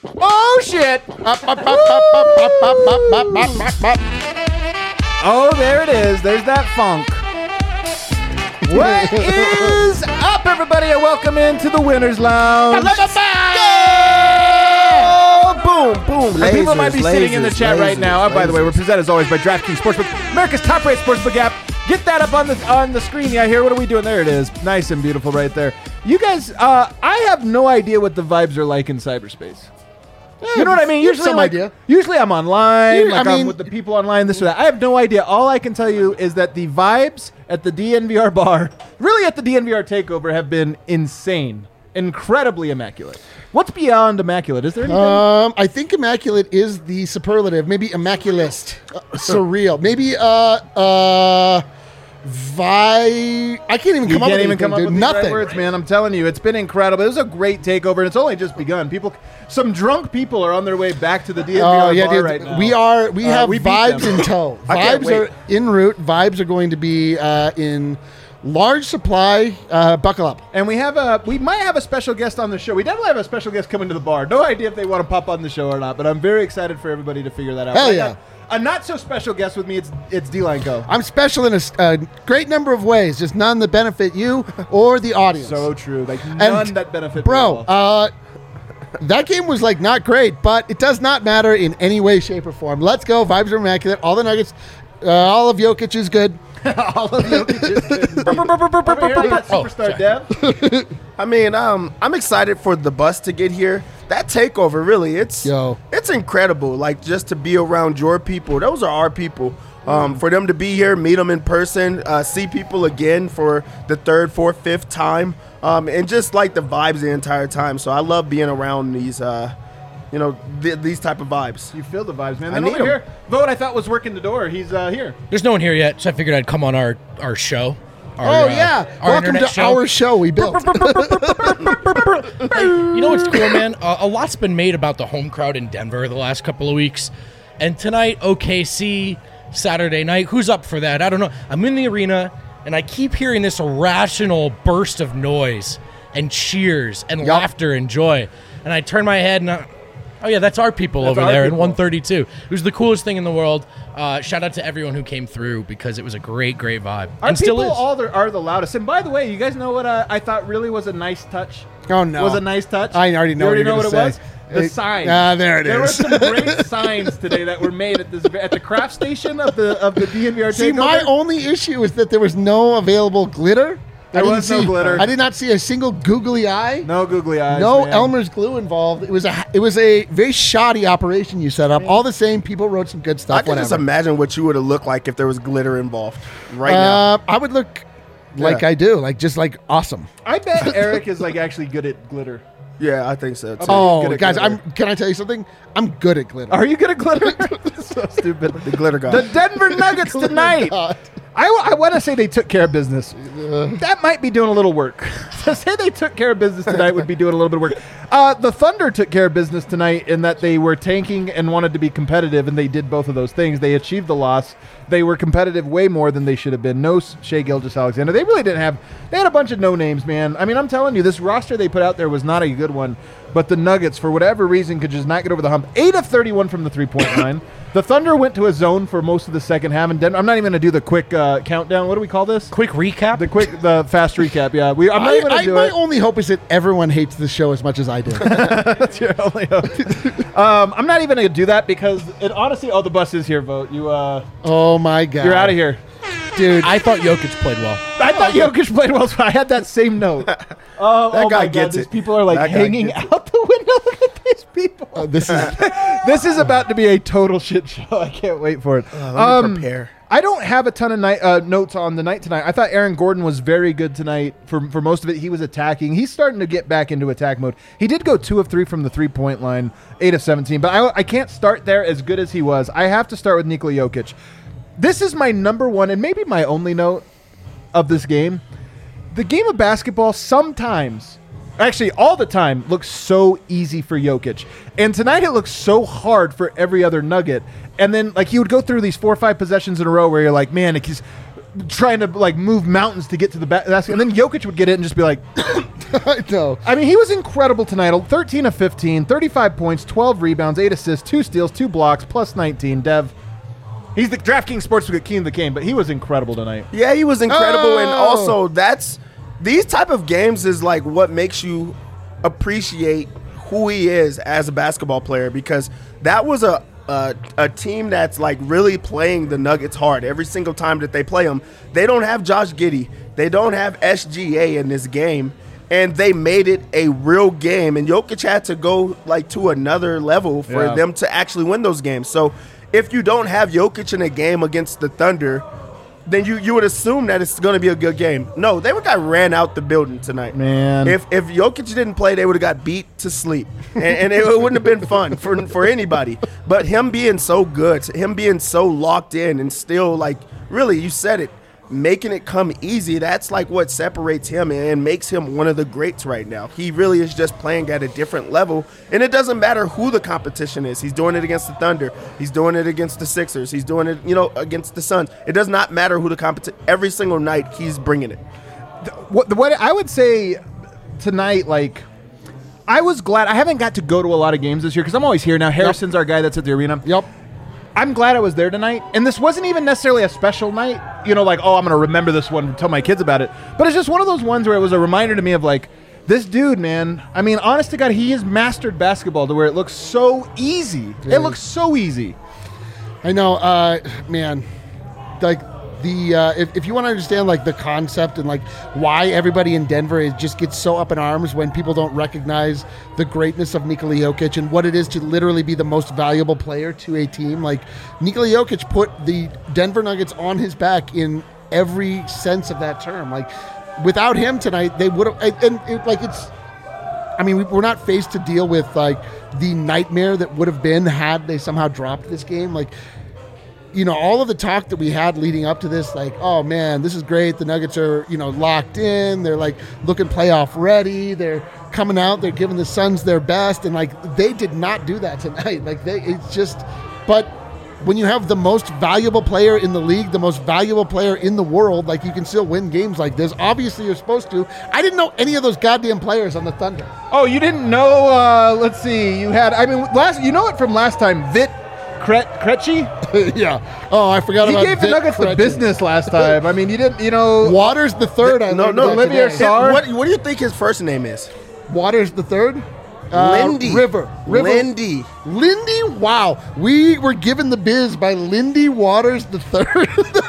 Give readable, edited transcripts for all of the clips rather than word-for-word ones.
Oh, shit. Oh, there it is. There's that funk. What is up, everybody, and welcome into the Winner's Lounge. Boom, boom. Lasers, people might be sitting in the chat right now. By the way, we're presented as always by DraftKings Sportsbook, America's top-rated sportsbook app. Get that up on the screen. Yeah, here. What are we doing? There it is. Nice and beautiful right there. You guys, I have no idea what the vibes are like in cyberspace. You know what I mean? Usually I'm online, I'm with the people online, this or that. I have no idea. All I can tell you is that the vibes at the DNVR bar, really at the DNVR takeover, have been insane. Incredibly immaculate. What's beyond immaculate? Is there anything? I think immaculate is the superlative. Maybe immaculist. Surreal. Maybe I can't even come up with anything, nothing. Right words, man. I'm telling you, it's been incredible. It was a great takeover, and it's only just begun. Some drunk people are on their way back to the DNVR bar right now. We have vibes in tow. Vibes are en route. Vibes are going to be in large supply. Buckle up. And we might have a special guest on the show. We definitely have a special guest coming to the bar. No idea if they want to pop on the show or not, but I'm very excited for everybody to figure that out. Hell yeah. A not so special guest with me, it's D-Line Co. I'm special in a great number of ways, just none that benefit you or the audience. So true. Like none that benefit bro, that game was like not great, but it does not matter in any way, shape, or form. Let's go. Vibes are immaculate. All the Nuggets, all of Jokic is good. All of Jokic is good. Superstar Dev. I mean, I'm excited for the bus to get here. That takeover, really, it's incredible. Like, just to be around your people. Those are our people. For them to be here, meet them in person, see people again for the third, fourth, fifth time, and just like the vibes the entire time. So I love being around these, these type of vibes. You feel the vibes, man. Then over here, Vote, I thought was working the door. He's here. There's no one here yet, so I figured I'd come on our show. Welcome to our show we built. You know what's cool, man? A lot's been made about the home crowd in Denver the last couple of weeks. And tonight, OKC, Saturday night. Who's up for that? I don't know. I'm in the arena, and I keep hearing this irrational burst of noise and cheers and laughter and joy. And I turn my head, and oh, yeah, that's our people over there in 132. It was the coolest thing in the world. Shout out to everyone who came through because it was a great, great vibe. Our people are the loudest. And by the way, you guys know what I thought really was a nice touch? Oh, no. Was a nice touch? I already know what it was? The signs. There it is. There were some great signs today that were made at the craft station of the DNVR takeover. See, my only issue is that there was no available glitter. There was no glitter. I did not see a single googly eye. No googly eyes. No Elmer's glue involved. It was a very shoddy operation you set up. All the same, people wrote some good stuff. I can just imagine what you would have looked like if there was glitter involved right now. I would look like I do, just awesome. I bet Eric is actually good at glitter. Yeah, I think so too. Oh, guys, can I tell you something? I'm good at glitter. Are you good at glitter? So stupid. The glitter guy. The Denver Nuggets tonight. I want to say they took care of business. That might be doing a little work. To say they took care of business tonight would be doing a little bit of work. The Thunder took care of business tonight in that they were tanking and wanted to be competitive, and they did both of those things. They achieved the loss. They were competitive way more than they should have been. No Shai Gilgeous-Alexander. They really didn't have – they had a bunch of no-names, man. I mean, I'm telling you, this roster they put out there was not a good one, but the Nuggets, for whatever reason, could just not get over the hump. 8 of 31 from the three-point line. The Thunder went to a zone for most of the second half, and Denver, I'm not even going to do the quick countdown. What do we call this? Quick recap? The fast recap, yeah. I'm not even going to do it. My only hope is that everyone hates the show as much as I do. That's your only hope. I'm not even going to do that because it honestly, the bus is here, Vote. You, oh, my God. You're out of here. Dude, I thought Jokic played well. I thought Jokic played well, so I had that same note. That guy gets it. These people are hanging out the window. Look at these people. This is about to be a total shit show. I can't wait for it. Let me prepare. I don't have a ton of notes on the night tonight. I thought Aaron Gordon was very good tonight for most of it. He was attacking. He's starting to get back into attack mode. He did go 2 of 3 from the three-point line, 8 of 17. But I can't start there as good as he was. I have to start with Nikola Jokic. This is my number one and maybe my only note of this game. The game of basketball sometimes, actually all the time, looks so easy for Jokic. And tonight it looks so hard for every other Nugget. And then he would go through these 4 or 5 possessions in a row where you're like, man, trying to like move mountains to get to the basket, and then Jokic would get it and just be like, I know. I mean, he was incredible tonight. 13 of 15, 35 points, 12 rebounds, 8 assists, 2 steals, 2 blocks, plus 19. Dev, he's the DraftKings Sportsbook King of the game, but he was incredible tonight. Yeah, he was incredible, and also these type of games is like what makes you appreciate who he is as a basketball player, because that was a team that's like really playing the Nuggets hard every single time that they play them. They don't have Josh Giddey. They don't have SGA in this game, and they made it a real game. And Jokic had to go like to another level for them to actually win those games. So if you don't have Jokic in a game against the Thunder, then you would assume that it's going to be a good game. No, they got ran out the building tonight. Man. If Jokic didn't play, they would have got beat to sleep. And it wouldn't have been fun for anybody. But him being so good, him being so locked in and still, like, really, you said it, making it come easy, that's like what separates him and makes him one of the greats right now. He really is just playing at a different level, and it doesn't matter who the competition is. He's doing it against the Thunder. He's doing it against the Sixers. He's doing it, against the Suns. It does not matter who the competition. Every single night, he's bringing it. What I would say tonight, like, I was glad. I haven't got to go to a lot of games this year because I'm always here now. Harrison's our guy that's at the arena. Yep. I'm glad I was there tonight, and this wasn't even necessarily a special night, like, oh, I'm going to remember this one and tell my kids about it, but it's just one of those ones where it was a reminder to me of, like, this dude, man, I mean, honest to God, he has mastered basketball to where it looks so easy. Yeah. It looks so easy. I know, man, like, if you want to understand like the concept and like why everybody in Denver just gets so up in arms when people don't recognize the greatness of Nikola Jokic and what it is to literally be the most valuable player to a team, like Nikola Jokic put the Denver Nuggets on his back in every sense of that term. Like without him tonight, they would have. We're not faced to deal with like the nightmare that would have been had they somehow dropped this game. Like, all of the talk that we had leading up to this, like, oh man, this is great. The Nuggets are, locked in. They're like looking playoff ready. They're coming out. They're giving the Suns their best. And like, they did not do that tonight. Like but when you have the most valuable player in the league, the most valuable player in the world, like you can still win games like this. Obviously you're supposed to. I didn't know any of those goddamn players on the Thunder. Oh, you didn't know, let's see. You had, it from last time, Vit Krejci? Yeah. Oh, I forgot about He gave the Nuggets the business last time. I mean, you didn't, Waters the third. Olivier Sarr. What do you think his first name is? Waters the third? Lindy. River. Lindy. Wow. We were given the biz by Lindy Waters the third.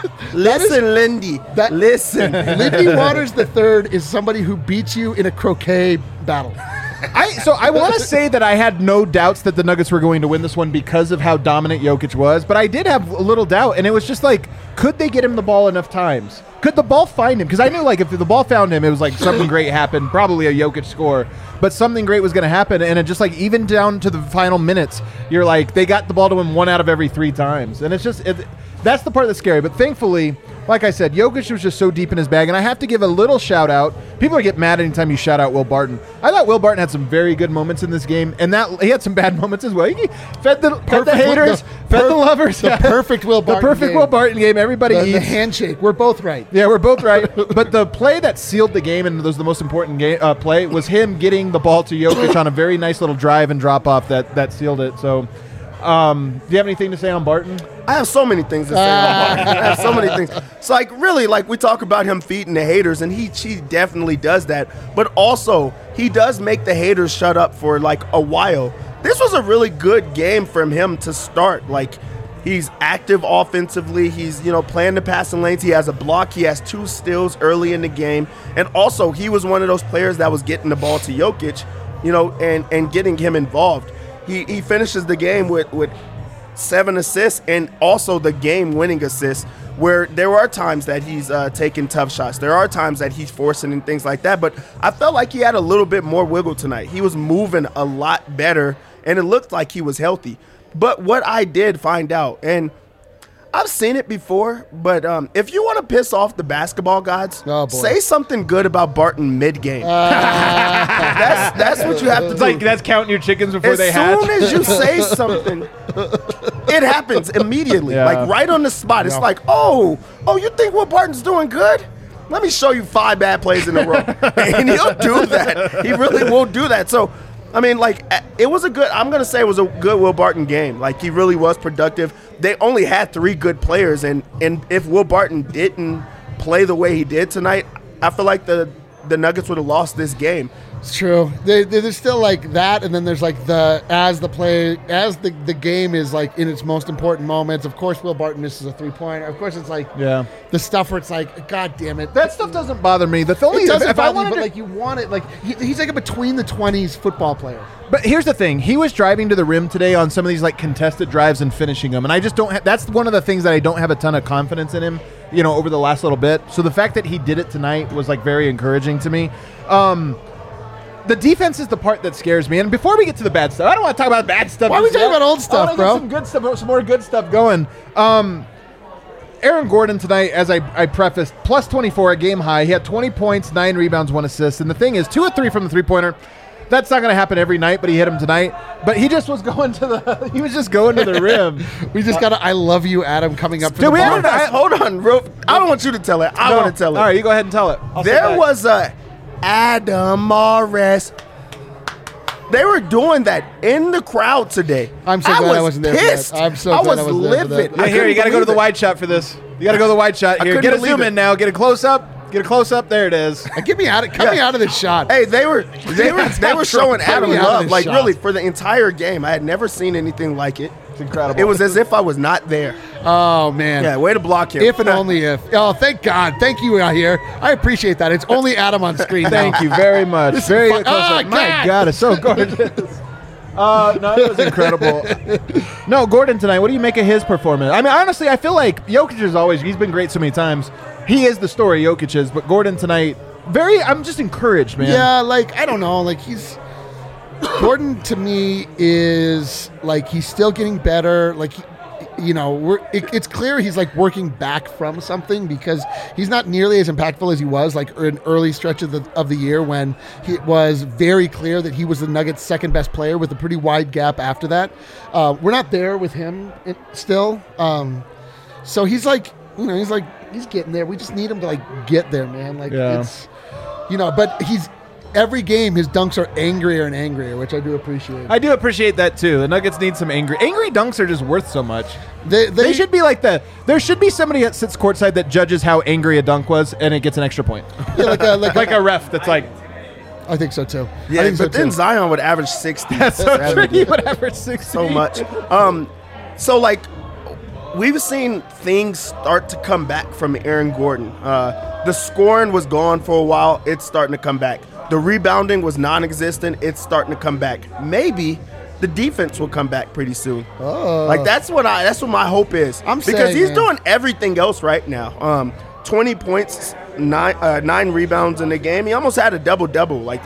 Lindy. Listen. Lindy Waters the third is somebody who beats you in a croquet battle. I want to say that I had no doubts that the Nuggets were going to win this one because of how dominant Jokic was, but I did have a little doubt, and it was just like, could they get him the ball enough times? Could the ball find him? Because I knew, like, if the ball found him, it was like something great happened, probably a Jokic score, but something great was going to happen, and it just, like, even down to the final minutes, you're like, they got the ball to him 1 out of every 3 times, and it's just, that's the part that's scary, but thankfully, like I said, Jokic was just so deep in his bag, and I have to give a little shout-out. People get mad anytime you shout out Will Barton. I thought Will Barton had some very good moments in this game, and that he had some bad moments as well. He fed the haters, fed the lovers. The perfect Will Barton The perfect game. Will Barton game. Everybody eats. The handshake. We're both right. Yeah, we're both right. But the play that sealed the game, and was the most important play, was him getting the ball to Jokic on a very nice little drive and drop-off that sealed it. So, do you have anything to say on Barton? I have so many things to say about Barton. I have so many things. So, like, really, like, we talk about him feeding the haters, and he definitely does that. But also, he does make the haters shut up for, like, a while. This was a really good game from him to start. Like, he's active offensively. He's, playing the passing lanes. He has a block. He has 2 steals early in the game. And also, he was one of those players that was getting the ball to Jokic, and getting him involved. He finishes the game with 7 assists and also the game-winning assist, where there are times that he's taking tough shots. There are times that he's forcing and things like that, but I felt like he had a little bit more wiggle tonight. He was moving a lot better, and it looked like he was healthy. But what I did find out, and I've seen it before, but if you want to piss off the basketball gods, say something good about Barton mid-game. That's what you have to do. It's like that's counting your chickens before they hatch. As soon as you say something, it happens immediately, Yeah. like right on the spot. It's like, oh, you think Will Barton's doing good? Let me show you 5 bad plays in a row. And he'll do that. He really will do that. So, I mean, like, it was I'm going to say it was a good Will Barton game. Like, he really was productive. They only had 3 good players. And if Will Barton didn't play the way he did tonight, I feel like the Nuggets would have lost this game. It's true. There's still like that, and then there's like the game is like in its most important moments. Of course, Will Barton misses a 3-pointer. Of course, it's like the stuff where it's like, God damn it. That stuff doesn't bother me. The only It doesn't if I bother me, wanted but to, like you want it. Like he's like a between the 20s football player. But here's the thing: he was driving to the rim today on some of these like contested drives and finishing them, and I just don't. That's one of the things that I don't have a ton of confidence in him. Over the last little bit. So the fact that he did it tonight was like very encouraging to me. The defense is the part that scares me. And before we get to the bad stuff, I don't want to talk about bad stuff. Why are we talking about old stuff, I bro? Get some good stuff, some more good stuff going. Aaron Gordon tonight, as I prefaced, plus 24, a game high. He had 20 points, 9 rebounds, 1 assist. And the thing is, 2 of 3 from the 3-pointer. That's not going to happen every night, but he hit him tonight. But he just was going to the he was just going to the rim. We just got a I love you, Adam, coming up for Dude, the we bar. Hold on, I don't want you to tell it. I want to tell it. All right, you go ahead and tell it. There was a Adam Morris. They were doing that in the crowd today. I'm so glad I wasn't there for that. Pissed. I'm so I glad I was wasn't there for that. livid. Yeah, here, you got to go to the wide shot for this. You got to go to the wide shot here. couldn't Get a believe zoom it. in now. Get a close up. Get a close up. There it is. Get me out of this shot. Hey, they were showing Adam me out of love, this like shot. really for the entire game. I had never seen anything like it. It's incredible. It was as if I was not there. Oh man. Yeah, way to block him. If and only if. Oh, thank God. Thank you out here. I appreciate that. It's only Adam on screen now. Thank you very much. Very close up. My God. God, it's so gorgeous. No, it was incredible. No, Gordon tonight, what do you make of his performance? I mean, honestly, I feel like Jokic is always, he's been great so many times. He is the story, Jokic is, but Gordon tonight, I'm just encouraged, man. Yeah, like, I don't know. Like, Gordon to me is, like, he's still getting better. Like, it's clear he's, like, working back from something because he's not nearly as impactful as he was, like, in early stretch of the year when it was very clear that he was the Nuggets' second best player with a pretty wide gap after that. We're not there with him still. So he's, like, he's getting there. We just need him to, like, get there, man. Like, it's, but he's, every game, his dunks are angrier and angrier, which I do appreciate. I do appreciate that, too. The Nuggets need some angry dunks are just worth so much. They should be like there should be somebody that sits courtside that judges how angry a dunk was, and it gets an extra point. Yeah, like a ref that's like, I think so, too. Yeah, I think but so then too. Zion would average 60. that's so true. He would average 60. So much. So, like, we've seen things start to come back from Aaron Gordon. The scoring was gone for a while. It's starting to come back. The rebounding was non-existent. It's starting to come back. Maybe the defense will come back pretty soon. Oh. Like, that's what my hope is. Because he's doing everything else right now. 20 points, 9 rebounds in the game. He almost had a double-double. Like,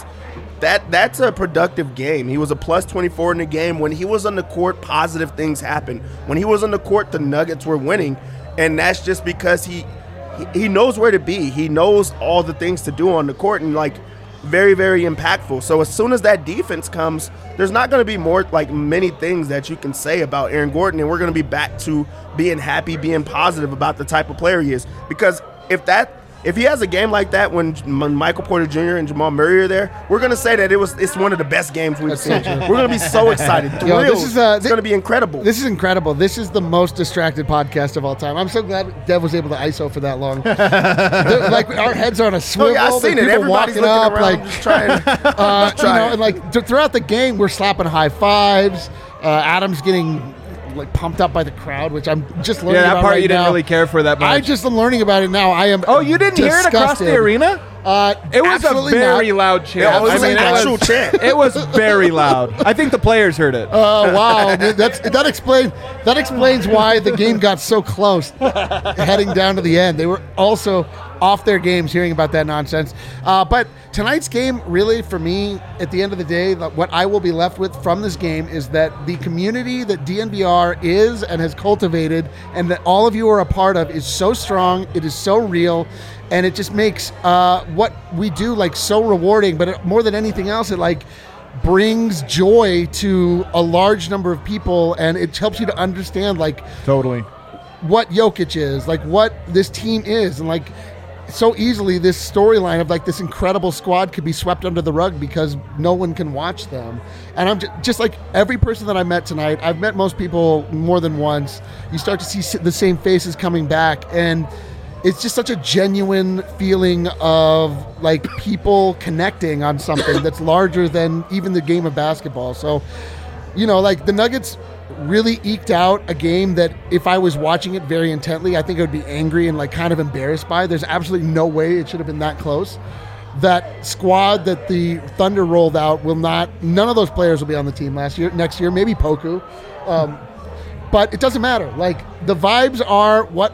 that's a productive game. He was a plus 24 in the game. When he was on the court, positive things happened. When he was on the court, the Nuggets were winning, and that's just because he knows where to be. He knows all the things to do on the court, and, like, very, very impactful. So as soon as that defense comes, there's not going to be many things that you can say about Aaron Gordon, and we're going to be back to being happy, being positive about the type of player he is. Because if he has a game like that when Michael Porter Jr. and Jamal Murray are there, we're going to say that it's one of the best games we've seen. We're going to be so excited. It's going to be incredible. This is incredible. This is the most distracted podcast of all time. I'm so glad Dev was able to ISO for that long. Like, our heads are on a swivel. Oh, yeah, I've seen it. Everybody's looking up, around, like, just trying. and like throughout the game, we're slapping high fives. Adam's getting, like, pumped up by the crowd, which I'm just learning about that part right you didn't now. really care for that much. I just am learning about it now. I am. Oh, you didn't hear it across the arena? It was a very loud chant. It was an actual chant. It was very loud. I think the players heard it. Oh wow, that explains why the game got so close heading down to the end. They were also off their games hearing about that nonsense. But tonight's game, really, for me, at the end of the day, what I will be left with from this game is that the community that DNVR is and has cultivated, and that all of you are a part of, is so strong. It is so real. And it just makes what we do, like, so rewarding. But more than anything else, it, like, brings joy to a large number of people, and it helps you to understand like Totally. what Jokic is, like what this team is, and like so easily this storyline of like this incredible squad could be swept under the rug because no one can watch them. And I'm just like every person that I met tonight, I've met most people more than once. You start to see the same faces coming back, and it's just such a genuine feeling of like people connecting on something that's larger than even the game of basketball. So, you know, like the Nuggets really eked out a game that if I was watching it very intently, I think I would be angry and like kind of embarrassed by. There's absolutely no way it should have been that close. That squad that the Thunder rolled out none of those players will be on the team next year, maybe Poku. But it doesn't matter. Like the vibes are what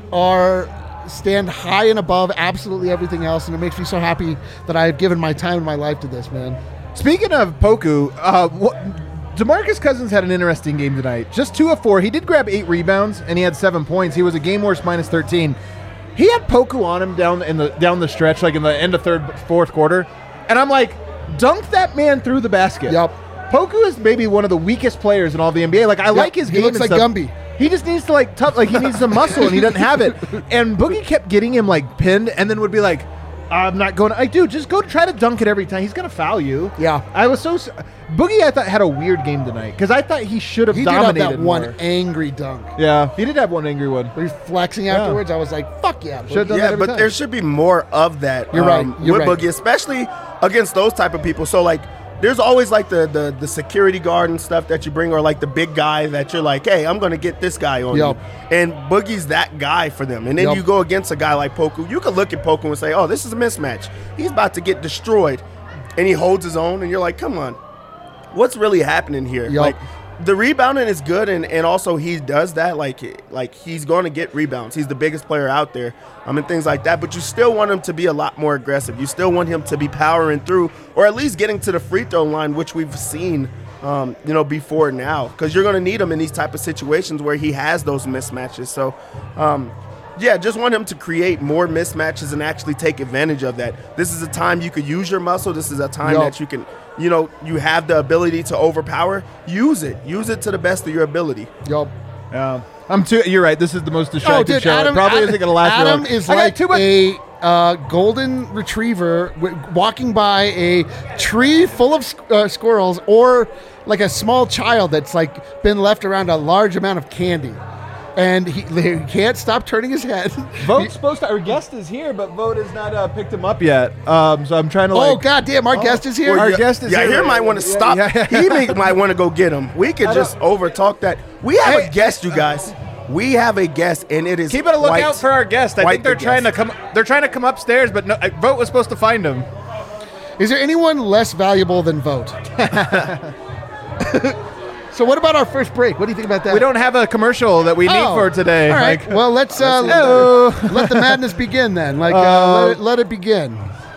stand high and above absolutely everything else, and it makes me so happy that I have given my time and my life to this, man. Speaking of Poku, DeMarcus Cousins had an interesting game tonight. Just 2 of 4. He did grab 8 rebounds, and he had 7 points. He was a game worst minus 13. He had Poku on him down the stretch, like in the end of fourth quarter, and I'm like, dunk that man through the basket. Yep. Poku is maybe one of the weakest players in all the NBA. Like I like his game. He looks like Gumby. He just needs to he needs some muscle, and he doesn't have it. And Boogie kept getting him like pinned, and then would be like, I'm not going. Dude, just go try to dunk it every time. He's gonna foul you. Yeah. I was so Boogie. I thought had a weird game tonight because I thought he should have dominated. He did have that more. one angry dunk. Yeah, he did have one angry one. But he's flexing afterwards. I was like, fuck yeah. Should've done that every time. There should be more of that. You're right. You're with right. Boogie, especially against those type of people. So like, there's always like the security guard and stuff that you bring, or like the big guy that you're like, hey, I'm gonna get this guy on you. And Boogie's that guy for them. And then you go against a guy like Poku. You could look at Poku and say, oh, this is a mismatch. He's about to get destroyed, and he holds his own. And you're like, come on, what's really happening here? Like the rebounding is good, and also he does that. Like he's going to get rebounds. He's the biggest player out there, and things like that. But you still want him to be a lot more aggressive. You still want him to be powering through, or at least getting to the free throw line, which we've seen, before now. Because you're going to need him in these type of situations where he has those mismatches. So, just want him to create more mismatches and actually take advantage of that. This is a time you could use your muscle. This is a time that you can. You have the ability to overpower. Use it. Use it to the best of your ability. Yup. Yeah. You're right. This is the most distracted show. Adam, it probably isn't going to last very long. Adam is like a golden retriever walking by a tree full of squirrels, or like a small child that's like been left around a large amount of candy. And he can't stop turning his head. Vote's supposed to. Our guest is here, but Vote has not picked him up yet. So I'm trying to. Oh goddamn! Our guest is here. Our guest is here. Here might want to stop. He might want to go get him. We could just overtalk that. We have a guest, you guys. We have a guest, and it is. Keep a lookout for our guest. I think they're trying to come. They're trying to come upstairs, but no, Vote was supposed to find him. Is there anyone less valuable than Vote? So what about our first break? What do you think about that? We don't have a commercial that we need for today. All right. Well, let's let the madness begin then. Let it begin.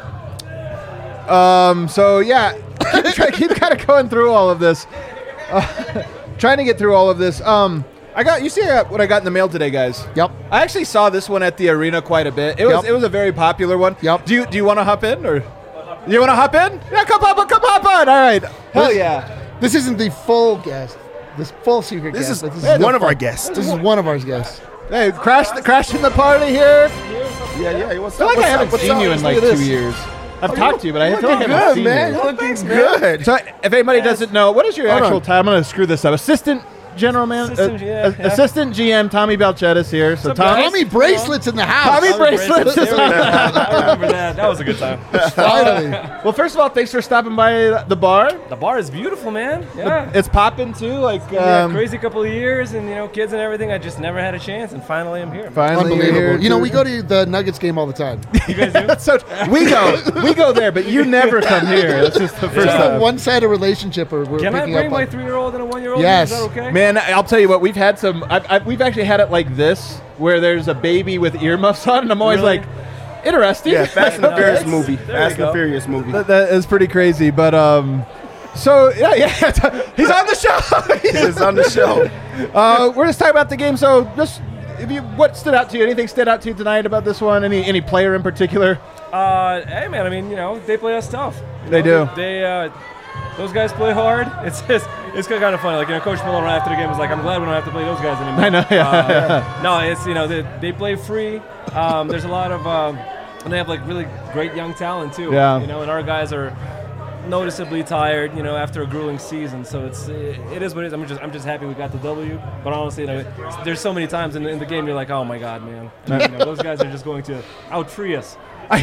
So yeah, keep kind of going through all of this. Trying to get through all of this. You see what I got in the mail today, guys? Yep. I actually saw this one at the arena quite a bit. It was a very popular one. Yep. Do you want to hop in, or you want to hop in? Yeah, come hop on. All right. Hell yeah. This isn't the full guest. This full secret guest. This is one of our guests. This is one of our guests. Hey, crashing the party here. Yeah. What's I feel like I haven't seen you in like 2 years. I've talked to you, but I feel like I haven't seen you. You're looking good. So if anybody doesn't know, what is your actual title? I'm going to screw this up. Assistant General Manager, Assistant GM Tommy Balchettis here. So Tommy Bracelet's in the house. Tommy Bracelet's is I remember that. That was a good time. Finally. Well, first of all, thanks for stopping by the bar. The bar is beautiful, man. Yeah. It's popping too. Like crazy couple of years, and kids and everything. I just never had a chance, and finally I'm here. Finally, unbelievable. Here we go to the Nuggets game all the time. You guys do? So we go there, but you never come here. That's just the first time. A one-sided relationship. We're Can I picking bring up my on. 3-year-old and a 1-year-old? Yes. Is that okay? Man, I'll tell you what. We've had some. We've actually had it like this, where there's a baby with earmuffs on, and I'm always like, interesting. Yeah, Fast and the Furious movie. There Fast you and the go. Furious movie. That is pretty crazy, but so yeah, he's on the show. He's on the show. We're just talking about the game. So just what stood out to you? Anything stood out to you tonight about this one? Any player in particular? Hey, man. I mean, they play us tough. They do. those guys play hard. It's kind of funny. Like, Coach Malone right after the game was like, I'm glad we don't have to play those guys anymore. I know. Yeah. No, it's they play free. There's a lot of and they have like really great young talent too. Yeah. And our guys are noticeably tired, after a grueling season. So it is what it is. I'm just happy we got the W. But honestly, there's so many times in the game you're like, oh my God, man, those guys are just going to out free us.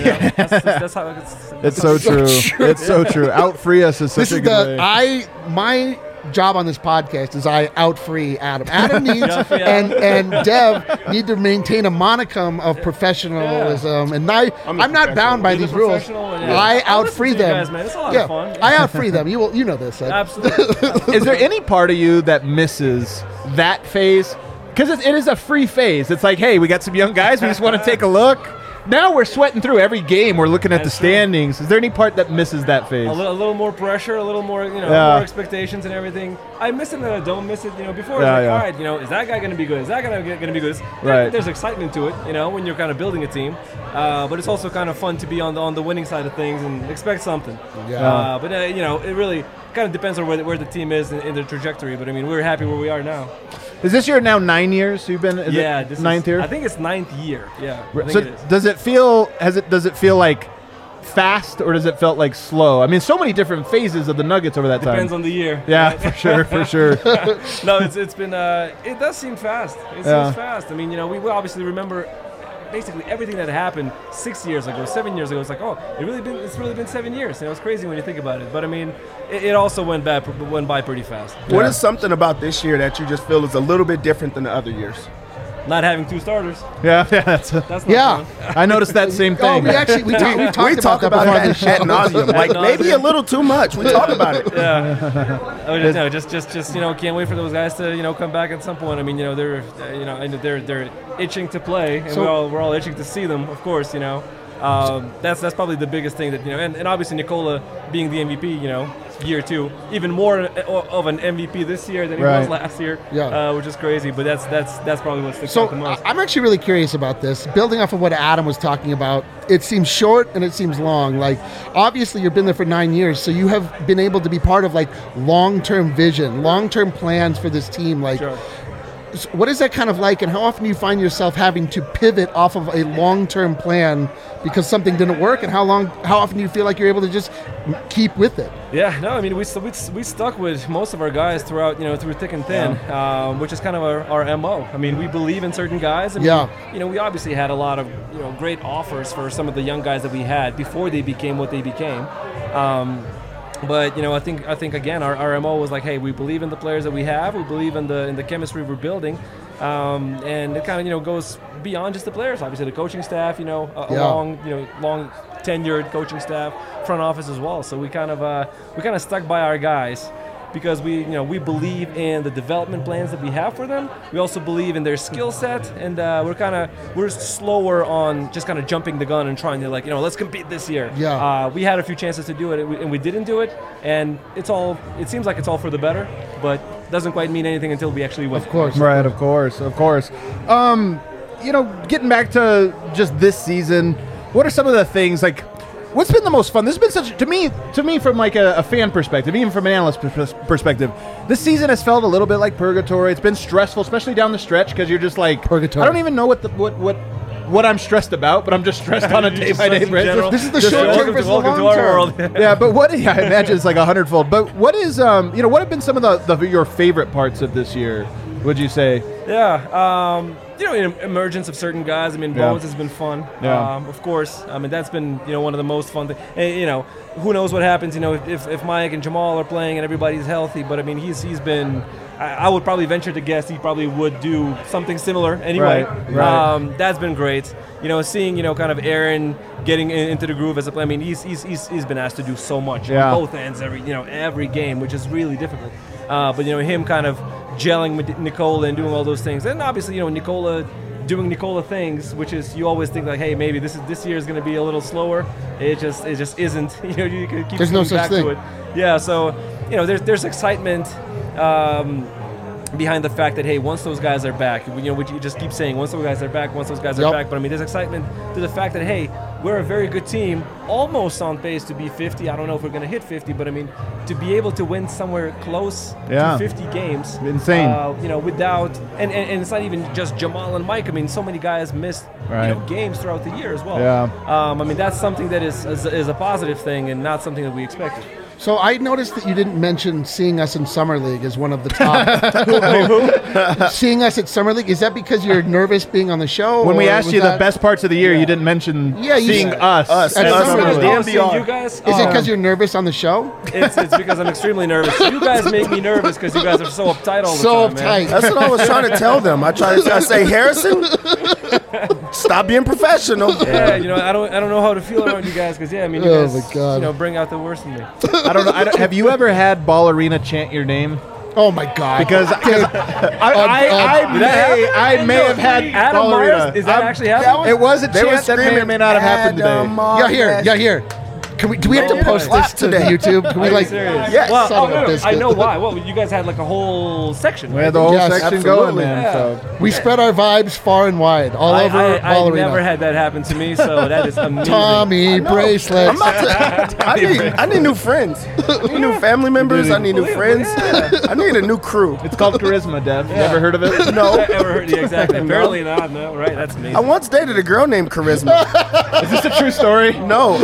That's how it's so true. It's so true. Out free us is such a good way. My job on this podcast is I out free Adam. Adam needs and Dev need to maintain a monicum of professionalism, and I'm not bound by these rules. I out free them. Guys, man. It's a lot of fun. I out free them. You know this. Absolutely. Is there any part of you that misses that phase? Because it is a free phase. It's like, hey, we got some young guys. We just want to take a look. Now we're sweating through every game. We're looking at the standings. Is there any part that misses that phase? A little more pressure, a little more, more expectations and everything. I miss it and I don't miss it. Before it's all right, is that guy going to be good? Is that guy going to be good? Right. There's excitement to it, when you're kind of building a team. But it's also kind of fun to be on the winning side of things and expect something. Yeah. But it really kind of depends on where the team is in the trajectory. But we're happy where we are now. Is this your now 9 years? You've been this ninth year? I think it's 9th year. Yeah. So does it feel like fast or does it felt like slow? So many different phases of the Nuggets over that time. Depends on the year. Yeah, right? for sure. No, it's been it does seem fast. It seems fast. We obviously remember basically everything that happened 6 years ago, 7 years ago. It's like, it's really been 7 years. It's crazy when you think about it. But it also went by pretty fast. What is something about this year that you just feel is a little bit different than the other years? Not having 2 starters. Yeah, that's not fun. I noticed that same thing. We talked about that ad nauseum. Like maybe a little too much. We talk about it. Yeah. Just can't wait for those guys to come back at some point. They're itching to play, and we're all itching to see them. Of course, that's probably the biggest thing that and obviously Nikola being the MVP, year 2, even more of an MVP this year than he was last year, which is crazy. But that's probably what sticks out the most. I'm actually really curious about this. Building off of what Adam was talking about, it seems short and it seems long. Like, obviously you've been there for 9 years, so you have been able to be part of like long-term vision, long-term plans for this team. Like, sure. What is that kind of like, and how often do you find yourself having to pivot off of a long-term plan because something didn't work, and how often do you feel like you're able to just keep with it? Yeah, no, we stuck with most of our guys throughout, through thick and thin, which is kind of our MO. We believe in certain guys. We obviously had a lot of great offers for some of the young guys that we had before they became what they became. But I think again our MO was like, hey, we believe in the players that we have, we believe in the chemistry we're building, and it kind of goes beyond just the players. Obviously, the coaching staff, long tenured coaching staff, front office as well. So we kind of stuck by our guys because we believe in the development plans that we have for them. We also believe in their skill set, and we're slower on just kind of jumping the gun and trying to let's compete this year. Yeah. We had a few chances to do it, and we didn't do it, and it seems like it's all for the better, but doesn't quite mean anything until we actually win. Of course. Right, of course. Getting back to just this season, what are some of the things like? What's been the most fun? This has been such to me from like a fan perspective, even from an analyst perspective. This season has felt a little bit like purgatory. It's been stressful, especially down the stretch, because you're just like purgatory. I don't even know what I'm stressed about, but I'm just stressed on a day-by-day basis. This is the short term versus the long term. Yeah, but I imagine it's like 100-fold. But what is what have been some of your favorite parts of this year? Would you say? Yeah. Emergence of certain guys. Bones has been fun. Yeah. Of course. That's been one of the most fun things. And, who knows what happens? If Mike and Jamal are playing and everybody's healthy. But he's been. I would probably venture to guess he probably would do something similar anyway. Right. That's been great. Seeing kind of Aaron getting into the groove as a player. He's been asked to do so much on both ends every game, which is really difficult. But him kind of gelling with Nikola and doing all those things, and obviously Nikola doing Nikola things, which is you always think like, hey, maybe this year is going to be a little slower. It just isn't. You can keep there's no such back thing. To it. Yeah, so there's excitement behind the fact that, hey, once those guys are back, which you just keep saying, once those guys are back, but there's excitement to the fact that, hey, we're a very good team, almost on pace to be 50. I don't know if we're going to hit 50, but I mean, to be able to win somewhere close to 50 games. Insane. Without, and it's not even just Jamal and Mike. I mean, so many guys missed games throughout the year as well. Yeah. I mean, that's something that is a positive thing and not something that we expected. So I noticed that you didn't mention seeing us in Summer League as one of the top. Seeing us at Summer League, is that because you're nervous being on the show? When we asked you the best parts of the year, you didn't mention seeing us at Summer League. You guys, is it because you're nervous on the show? It's because I'm extremely nervous. You guys make me nervous because you guys are so uptight all the time. Uptight. That's what I was trying to tell them. I say, Harrison, stop being professional. Yeah, I don't know how to feel around you guys because you guys, bring out the worst in me. I don't know. Have you ever had Ball Arena chant your name? Oh my God! Because I may have had Adam Ball Arena. Myers. Is that actually happening? It was a chant that may or may not have happened today. Yeah, here. Do we have to post this to YouTube? Can we Yeah. Well, I know why. Well, you guys had like a whole section. We had the whole section going, man. Yeah. So we spread our vibes far and wide, all over Ball Arena. I never had that happen to me, so that is amazing. Tommy bracelets. I need new friends. I need new family members. I need new friends. I need a new crew. It's called charisma, Dev. You ever heard of it? No. Ever heard? Yeah, exactly. Apparently not. No, right? That's amazing. I once dated a girl named Charisma. Is this a true story? No.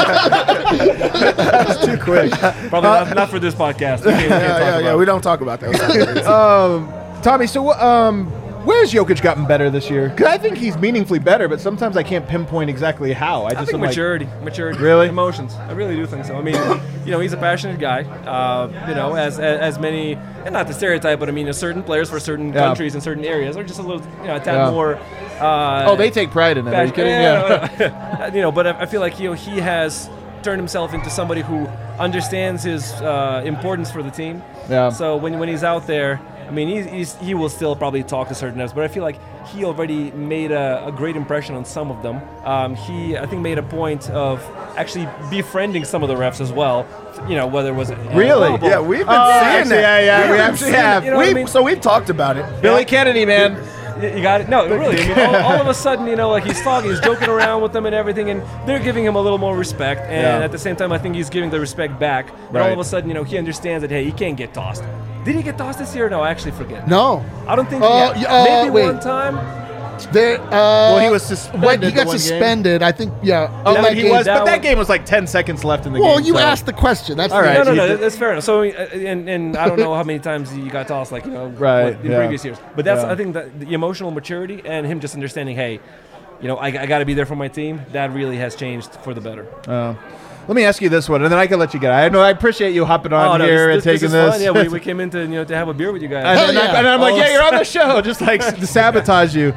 That's too quick. Probably not for this podcast. We don't talk about that. Tommy, so where's Jokic gotten better this year? Because I think he's meaningfully better, but sometimes I can't pinpoint exactly how. I think maturity, really, emotions. I really do think so. I mean, he's a passionate guy. As many, and not the stereotype, but I mean, certain players for certain countries and certain areas are just a little, a tad more. They take pride in it. Are you kidding? Yeah. But I feel like he has turned himself into somebody who understands his importance for the team. Yeah. So when he's out there, I mean, he will still probably talk to certain refs, but I feel like he already made a great impression on some of them. He, I think, made a point of actually befriending some of the refs as well. Whether it was really, yeah, we've been seeing that. Yeah, we actually have. So we've talked about it. Billy Kennedy, man. You got it. No, really. I mean, all of a sudden, he's talking, he's joking around with them and everything, and they're giving him a little more respect. And at the same time, I think he's giving the respect back. And all of a sudden, he understands that, hey, he can't get tossed. Did he get tossed this year? No, I actually forget. No. I don't think he maybe one time. He was suspended. He got suspended. Game. I think, he was. But that game was like 10 seconds left in the game. Well, you asked the question. That's all right. No, that's fair enough. So, and I don't know how many times he got tossed, in previous years. But that's, I think, that the emotional maturity and him just understanding, hey, I got to be there for my team. That really has changed for the better. Let me ask you this one, and then I can let you get. I appreciate you hopping on here and taking this. Fun. Yeah, we came in to have a beer with you guys. And I'm like, you're on the show, just like to sabotage you.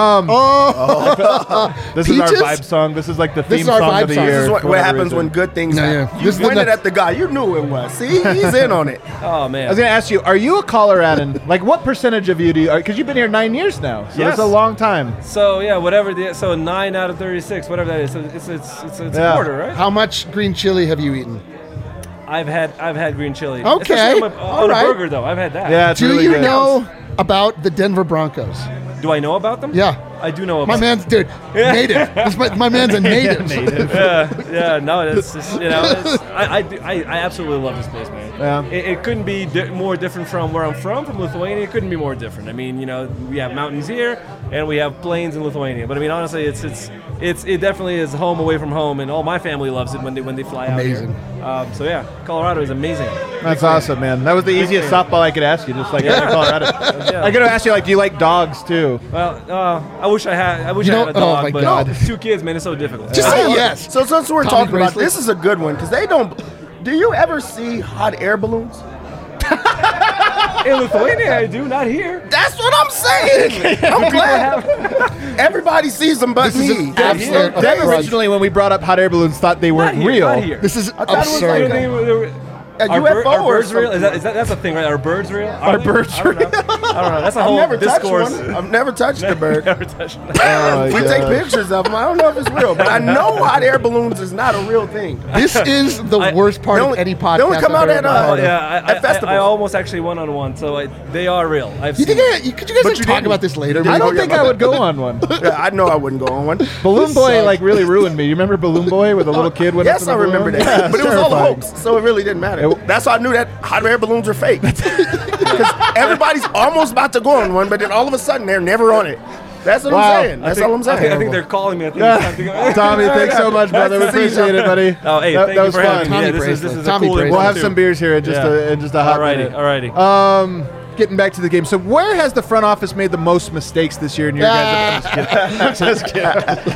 This is our vibe song. This is like the theme song of the year. This is what happens when good things happen. You pointed at the guy. You knew it was. See, he's in on it. Oh man. I was gonna ask you, are you a Coloradan? Like, what percentage of you do you? Because you've been here 9 years now, so it's a long time. So yeah, whatever. So 9 out of 36, whatever that is. So it's a quarter, right? How much green chili have you eaten? I've had green chili. Okay. On a burger though. I've had that. Yeah. Do really you good. know about the Denver Broncos? Do I know about them? Yeah. I do know about my man's native. My man's a native. No, it's just, I absolutely love this place, man. Yeah. It couldn't be more different from where I'm from Lithuania. It couldn't be more different. I mean, we have mountains here and we have plains in Lithuania. But I mean, honestly, it definitely is home away from home, and all my family loves it when they fly out here. So yeah, Colorado is amazing. That's awesome, man. That was the easiest softball I could ask you, just like Colorado. I got to ask you, do you like dogs too? Well, I wish I had a dog, but God. 2 kids, man, it's so difficult. Just say yes. So since we're Tommy talking about bracelet. this is a good one because they don't. Do you ever see hot air balloons? In Lithuania, I do, not here. That's what I'm saying. I'm glad. Everybody sees them but me. Dev originally, when we brought up hot air balloons, thought they weren't real. This is I thought absurd. It was UFO or birds real? Is that's a thing, right? Are birds real? Are birds real? I don't know. That's a whole discourse. I've never touched a bird. Never touched one. We take pictures of them. I don't know if it's real, but I know hot air balloons is not a real thing. This is the worst part of any podcast. They only come out at festivals. I almost actually went on one, so they are real. Could you guys talk about this later? I don't think I would go on one. Yeah, I know I wouldn't go on one. Balloon Boy really ruined me. You remember Balloon Boy with a little kid? Yes, I remember that. Yeah, but it was all a hoax, so it really didn't matter. That's why I knew that hot air balloons were fake. Because everybody's almost about to go on one, but then all of a sudden they're never on it. That's what I'm saying. That's all I'm saying. I think they're calling me. I think it's time to go. Tommy, thanks so much, brother. We appreciate it, buddy. Oh, hey, thank you for having me. Yeah, this is a cool We'll have some beers here in just a hot minute. Alrighty. Getting back to the game. So where has the front office made the most mistakes this year in your guys' I'm just kidding.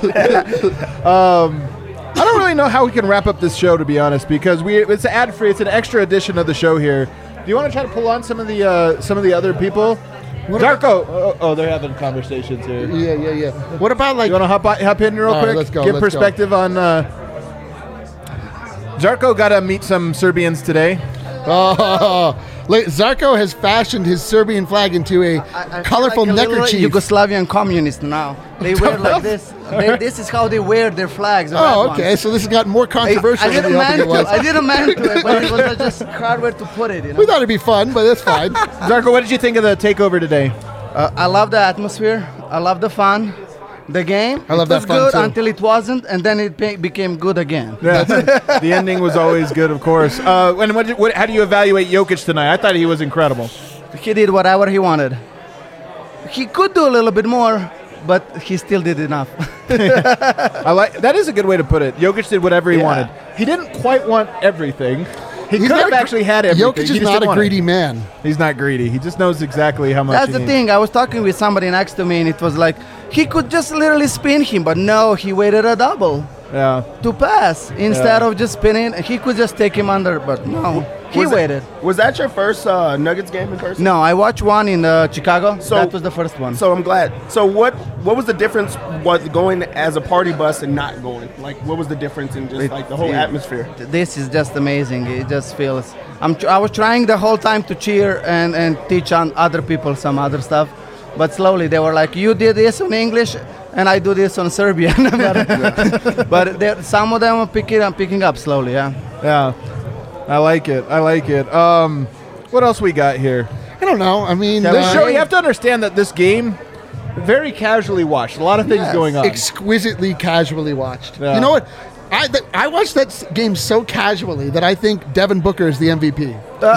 I don't really know how we can wrap up this show, to be honest, because it's ad free. It's an extra edition of the show here. Do you want to try to pull on some of the other people? Darko. They're having conversations here. Yeah. What about you want to hop in real quick? Right, let's go. Give perspective on. Zarko got to meet some Serbians today. Zarko has fashioned his Serbian flag into a colorful neckerchief. Yugoslavian communist now. They wear like this. This is how they wear their flags. Oh, okay. So this has gotten more controversial than we hoped it was. I didn't mean to, but it was just hard where to put it. We thought it'd be fun, but that's fine. Zarko, what did you think of the takeover today? I love the atmosphere. I love the fun. The game, I love it was that fun good too. Until it wasn't, and then it became good again. Yeah. The ending was always good, of course. And how do you evaluate Jokic tonight? I thought he was incredible. He did whatever he wanted. He could do a little bit more, but he still did enough. That is a good way to put it. Jokic did whatever he wanted. He didn't quite want everything. He could have actually had everything. Jokic is not a greedy man. He's not greedy. He just knows exactly how much That's the thing. I was talking with somebody next to me, and it was like, he could just literally spin him, but no, he waited a double to pass. Instead of just spinning, he could just take him under, but no. He waited. Was that your first Nuggets game in person? No, I watched one in Chicago. So that was the first one. So I'm glad. So what was the difference was going as a party bus and not going? Like, what was the difference in just the whole atmosphere? This is just amazing. It just feels. I was trying the whole time to cheer and teach on other people some other stuff, but slowly they were like, "You did this in English, and I do this on Serbian." but some of them are picking up slowly. Yeah. I like it. What else we got here? I don't know. I mean, this show, you have to understand that this game, very casually watched. A lot of things going on. Exquisitely casually watched. Yeah. You know what? I watched that game so casually that I think Devin Booker is the MVP.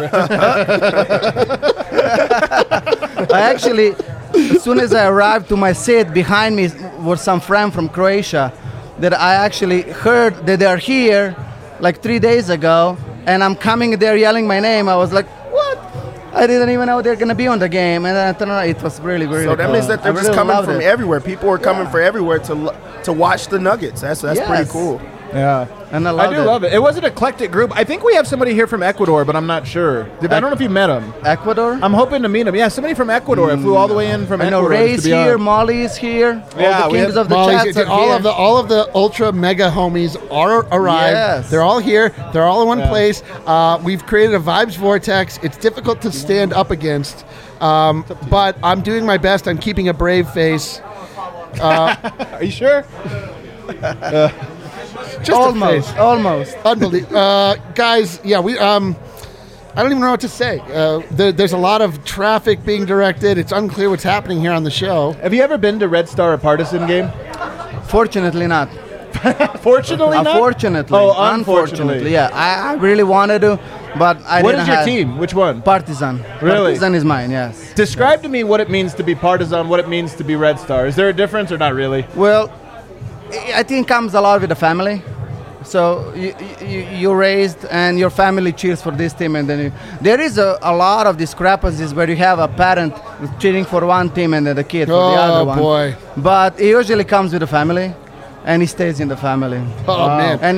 I actually, as soon as I arrived to my seat, behind me was some friend from Croatia that I actually heard that they're here like 3 days ago. And I'm coming there yelling my name. I was like, what? I didn't even know they're going to be on the game. And then I turned around. It was really, really cool. So that means that they're just coming from everywhere. People are coming from everywhere to watch the Nuggets. That's pretty cool. Yeah. And I love it. It was an eclectic group. I think we have somebody here from Ecuador, but I'm not sure. I don't know if you met him. Ecuador? I'm hoping to meet him. Yeah, somebody from Ecuador. I flew all the way in from Ecuador. I know Ray's here, Molly's here. Yeah, all the kings of the chats are all here. All of the ultra mega homies are arrived. Yes. They're all here. They're all in one place. We've created a vibes vortex. It's difficult to stand up against, but I'm doing my best. I'm keeping a brave face. Are you sure? Just almost. Unbelievable. Guys, yeah, we I don't even know what to say. There's a lot of traffic being directed. It's unclear what's happening here on the show. Have you ever been to Red Star or Partisan game? Fortunately not. Fortunately not? Unfortunately. Oh, unfortunately. Yeah, I really wanted to, but I didn't. What is your team? Which one? Partizan. Really? Partizan is mine, yes. Describe to me what it means to be Partizan, what it means to be Red Star. Is there a difference or not really? Well, I think it comes a lot with the family. So you're raised and your family cheers for this team, and then there is a lot of discrepancies where you have a parent cheering for one team and then the kid for the other one. Oh boy! But it usually comes with the family, and it stays in the family. Oh man! And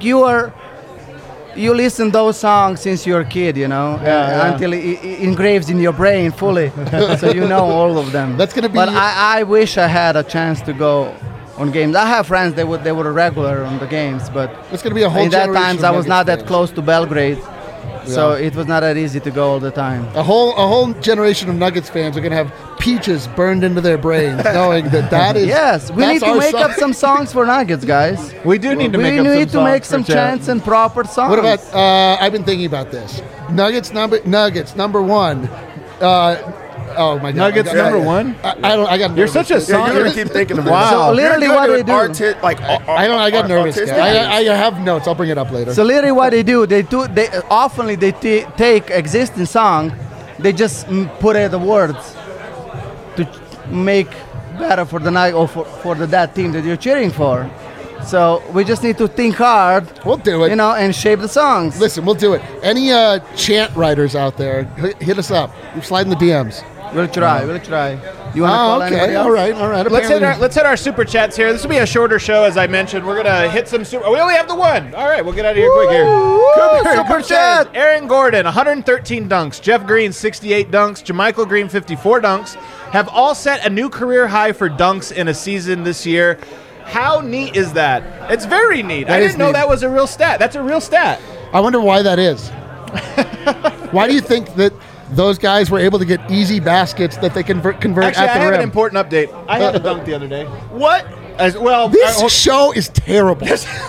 you listen those songs since you're a kid, until it engraves in your brain fully, so you know all of them. That's gonna be. But I wish I had a chance to go on games. I have friends they were regular on the games, but it's going to be a whole in that generation times of I was not Nuggets that close to Belgrade, So it was not that easy to go all the time. A whole generation of Nuggets fans are going to have peaches burned into their brains, knowing that is. Yes, we need to make up some songs for Nuggets, guys. We do need to make up some songs. We need to make some chants and proper songs. What about? I've been thinking about this. Nuggets number one. Oh my God! Nuggets number one. I got. You're such a song. You're gonna keep thinking of wow. So literally, what they do. I got nervous. I have notes. I'll bring it up later. So literally, what they do, they often take existing song, they just put the words to make better for the night or for that team that you're cheering for. So we just need to think hard. We'll do it. And shape the songs. Listen, we'll do it. Any chant writers out there, hit us up. We're sliding the DMs. We'll try. You want to call anybody else? All right. Let's hit our super chats here. This will be a shorter show, as I mentioned. We're gonna hit some super. We only have the one. All right, we'll get out of here quick here. Super chat. Aaron Gordon, 113 dunks. Jeff Green, 68 dunks. JaMychal Green, 54 dunks. Have all set a new career high for dunks in a season this year. How neat is that? It's very neat. I didn't know that was a real stat. That's a real stat. I wonder why that is. Why do you think that those guys were able to get easy baskets that they convert Actually, at the rim? I have an important update. I had a dunk the other day. What? This show is terrible.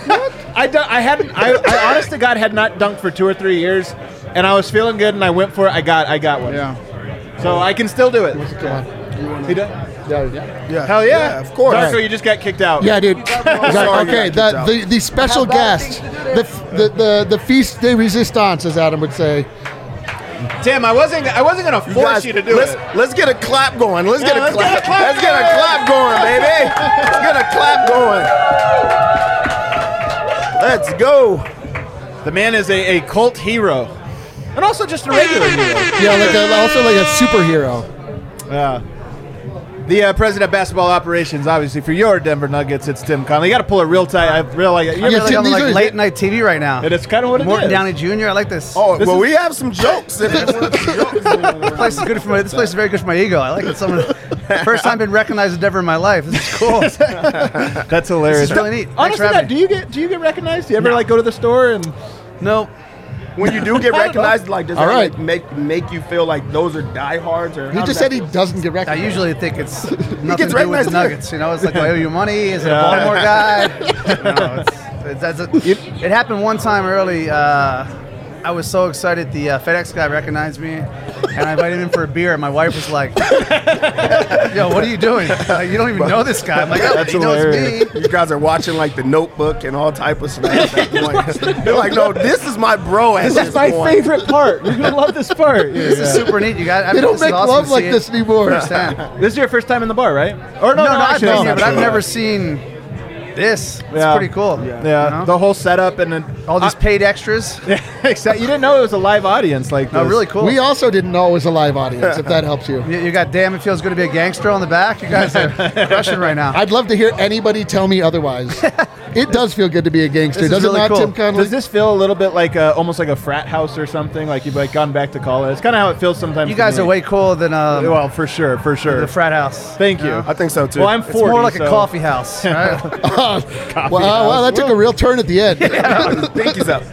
I honest to God had not dunked for 2 or 3 years, and I was feeling good, and I went for it. I got one. Yeah. So I can still do it. He done? Yeah. Hell yeah. Of course. Darko, you just got kicked out. Yeah, dude. Sorry, Okay, the special guest, the feast de resistance, as Adam would say. Tim, I wasn't gonna force you to do it. Let's get a clap going. Let's get a clap going, baby. Let's get a clap going. Let's go. The man is a cult hero, and also just a regular hero. Yeah, also like a superhero. The president of basketball operations, obviously, for your Denver Nuggets, it's Tim Connelly. You got to pull it real tight. I feel like You're on like late night TV right now. And it's kind of what it Morton is. Downey Jr. I like this. Oh, well, we have some jokes. This place is good for this place is very good for my ego. I like it. First time been recognized as Denver in my life. This is cool. That's hilarious. This is really neat. Honestly, do you get recognized? Do you ever go to the store and? No. When you do get recognized, does that make you feel like those are diehards? Or he just said he doesn't get recognized. I usually think it's nothing to do with the Nuggets. It's like, I owe you money. Is it a Baltimore guy? It happened one time early. I was so excited. The FedEx guy recognized me, and I invited him for a beer. And my wife was like, "Yo, what are you doing? You don't even know this guy." I'm like, "Oh, he knows me." You guys are watching The Notebook and all type of stuff at that point. You're like, "No, this is my bro." This is my favorite part. You're gonna love this part. This is super neat. You got. They don't make love like this anymore. This is your first time in the bar, right? Or no, I've been here, but I've never seen this. It's pretty cool. Yeah. The whole setup and then all these paid extras. Yeah, exactly. You didn't know it was a live audience like this. Oh, really cool. We also didn't know it was a live audience, if that helps you. You got Damn It Feels Good to Be a Gangster on the back. You guys are crushing right now. I'd love to hear anybody tell me otherwise. It does feel good to be a gangster, does really it not, cool. Tim Connelly? Does this feel a little bit like almost like a frat house or something? Like you've gone back to college? It's kind of how it feels sometimes. You guys are way cooler than well, for sure. the frat house. Thank you. I think so too. Well, I'm 40. It's more like a coffee house. Right? Wow, that took a real turn at the end. Pinky's up.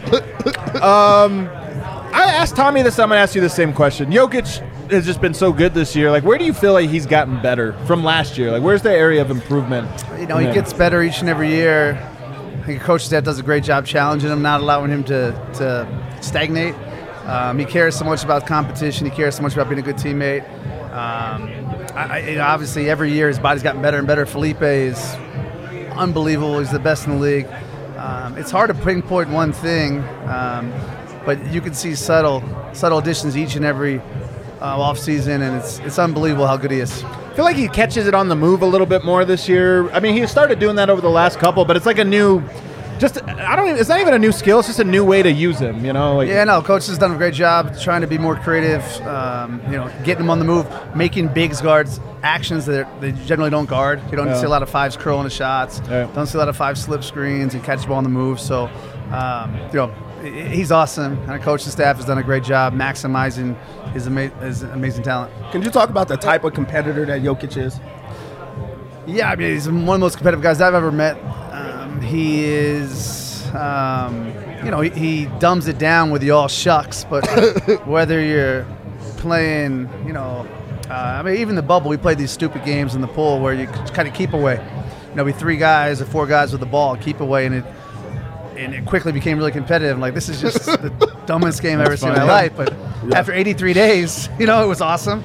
I asked Tommy this. I'm gonna ask you the same question. Jokic has just been so good this year. Like, where do you feel like he's gotten better from last year? Like, where's the area of improvement? He gets better each and every year. I think coach staff does a great job challenging him, not allowing him to stagnate. He cares so much about competition. He cares so much about being a good teammate. Obviously, every year his body's gotten better and better. Felipe is unbelievable. He's the best in the league. It's hard to pinpoint one thing, but you can see subtle additions each and every offseason, and it's unbelievable how good he is. I feel like he catches it on the move a little bit more this year. I mean, he started doing that over the last couple, but it's like a new, it's not even a new skill. It's just a new way to use him, Coach has done a great job trying to be more creative, getting him on the move, making bigs guards actions that they generally don't guard. You don't see a lot of fives curling the shots. Yeah. Don't see a lot of five slip screens and catch the ball on the move. So, he's awesome, and our coaching staff has done a great job maximizing his amazing talent. Can you talk about the type of competitor that Jokic is? Yeah, I mean, he's one of the most competitive guys I've ever met. He is he dumbs it down with the all shucks, but whether you're playing, even the bubble, we played these stupid games in the pool where you kind of keep away. We 3 guys or 4 guys with the ball, keep away, and it quickly became really competitive. Like, this is just the dumbest game I've ever seen in my life. But after 83 days, it was awesome.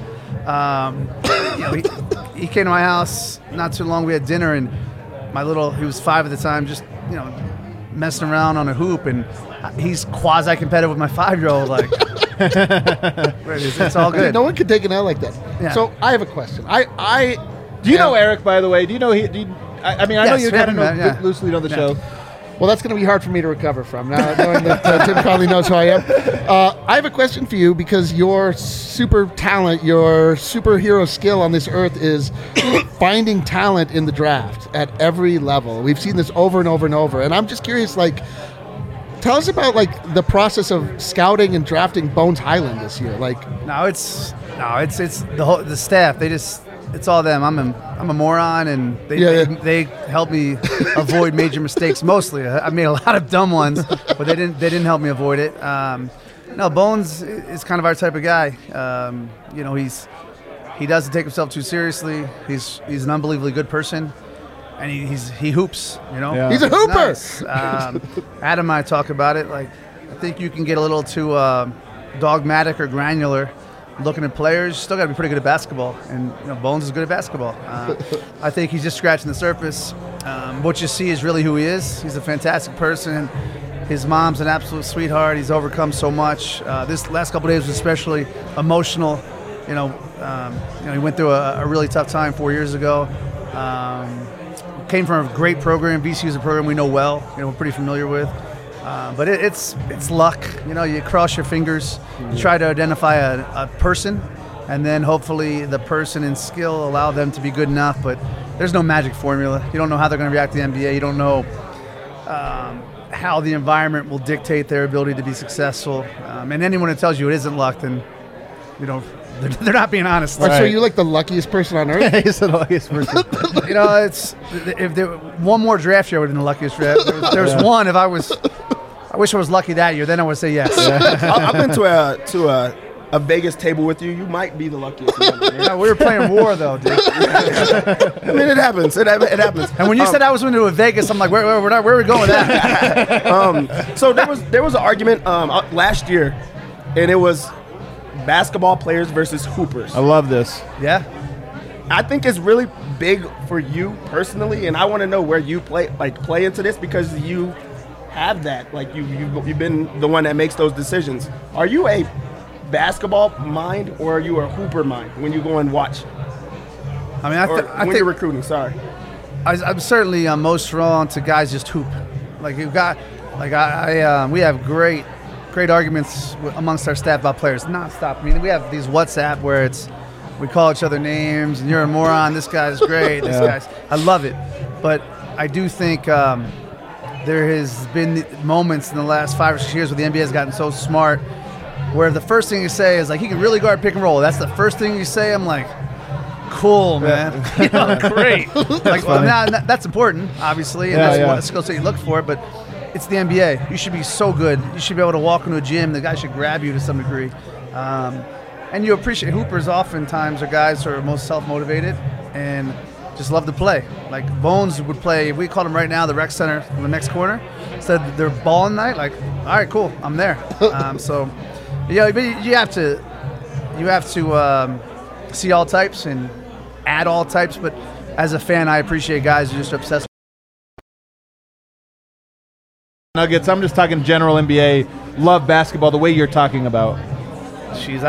He came to my house not too long. We had dinner, and he was 5 at the time, just, messing around on a hoop, and he's quasi-competitive with my 5-year-old. Like, it's all good. No one could take an L like that. Yeah. So I have a question. Do you know Eric, by the way? Do you know I know you kind of loosely know the show. Well, that's going to be hard for me to recover from now, knowing that Tim Connolly knows who I am. I have a question for you, because your super talent, your superhero skill on this earth is finding talent in the draft at every level. We've seen this over and over and over. And I'm just curious, tell us about the process of scouting and drafting Bones Hyland this year. It's the staff. It's all them. I'm a moron, and they help me avoid major mistakes. Mostly, I made a lot of dumb ones, but they didn't help me avoid it. Bones is kind of our type of guy. He doesn't take himself too seriously. He's an unbelievably good person, and he hoops. He's a hooper. Nice. Adam and I talk about it. I think you can get a little too dogmatic or granular looking at players. Still got to be pretty good at basketball, and Bones is good at basketball. I think he's just scratching the surface. What you see is really who he is. He's a fantastic person. His mom's an absolute sweetheart. He's overcome so much. This last couple of days was especially emotional. He went through a really tough time 4 years ago. Came from a great program. VCU is a program we know well. We're pretty familiar with. But it's luck. You cross your fingers, you try to identify a person, and then hopefully the person and skill allow them to be good enough. But there's no magic formula. You don't know how they're going to react to the NBA. You don't know how the environment will dictate their ability to be successful. And anyone who tells you it isn't luck, then they're not being honest. Right. So you're the luckiest person on earth? He's the luckiest person. If there one more draft year, I would have been the luckiest draft. There's one. I wish I was lucky that year. Then I would say yes. I've been to a Vegas table with you. You might be the luckiest. We were playing war, though, dude. It happens. It happens. And when you said I was going to Vegas, I'm like, where are we going with that? So there was an argument last year, and it was basketball players versus hoopers. I love this. Yeah. I think it's really big for you personally, and I want to know where you play into this, because you have that. You've been the one that makes those decisions. Are you a basketball mind, or are you a hooper mind when you go and watch? I think you're recruiting. Sorry, I'm certainly most drawn to guys just hoop. We have great arguments amongst our staff about players nonstop. We have these WhatsApp where we call each other names, and you're a moron. This guy's great. I love it, but I do think there has been moments in the last 5 or 6 years where the NBA has gotten so smart, where the first thing you say is he can really guard pick and roll. That's the first thing you say. I'm like, cool, man. Great. That's important, obviously, and that's what skill set you look for. But it's the NBA. You should be so good. You should be able to walk into a gym. The guy should grab you to some degree. And you appreciate hoopers oftentimes are guys who are most self-motivated and just love to play. Bones would play, we call him right now the rec center in the next corner. Said they're balling night, all right, cool, I'm there. But you have to see all types and add all types. But as a fan, I appreciate guys who are just obsessed. Nuggets, I'm just talking general NBA, love basketball the way you're talking about. Jeez,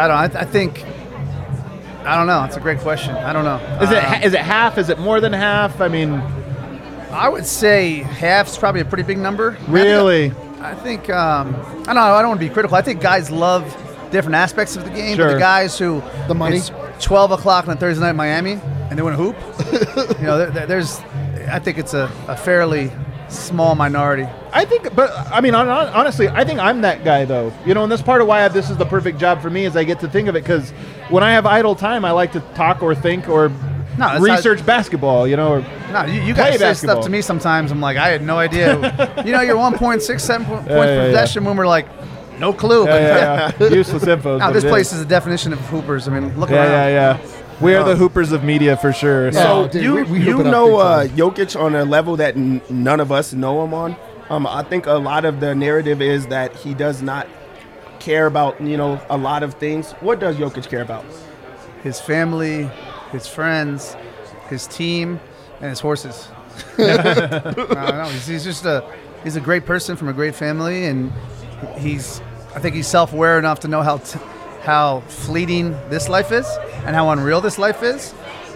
I don't know. It's a great question. I don't know. Is it half? Is it more than half? I would say half's probably a pretty big number. Really? I think I don't know. I don't want to be critical. I think guys love different aspects of the game. Sure. But the guys who the money. It's 12 o'clock on a Thursday night in Miami and they want to hoop. I think it's a fairly small minority. Honestly, I think I'm that guy, though. And that's part of why this is the perfect job for me, is I get to think of it, because when I have idle time, I like to talk or think or research basketball, No, you guys say stuff to me sometimes. I'm like, I had no idea. You're 1.67 points per possession when we're like, no clue. Useless info. Now, this place is the definition of hoopers. I mean, look around. Yeah. We are the hoopers of media for sure. So you know Jokic on a level that none of us know him on. I think a lot of the narrative is that he does not care about, a lot of things. What does Jokic care about? His family, his friends, his team, and his horses. He's a great person from a great family, and I think he's self-aware enough to know how fleeting this life is and how unreal this life is.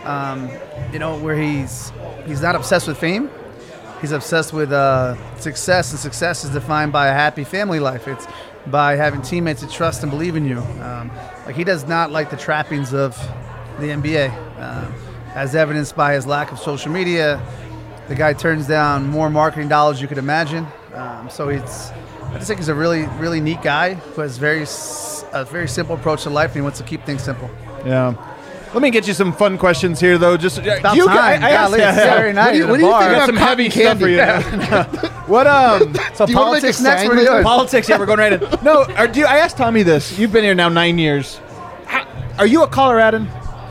Where he's not obsessed with fame. He's obsessed with success, and success is defined by a happy family life. It's by having teammates that trust and believe in you. He does not like the trappings of the NBA, as evidenced by his lack of social media. The guy turns down more marketing dollars you could imagine. I just think he's a really, really neat guy who has a very simple approach to life, and he wants to keep things simple. Yeah. Let me get you some fun questions here, though. Just about time. What do you think about some heavy stuff for you? What So politics next? We're doing politics. Yeah, we're going right in. No, I asked Tommy this. You've been here now 9 years. Are you a Coloradan?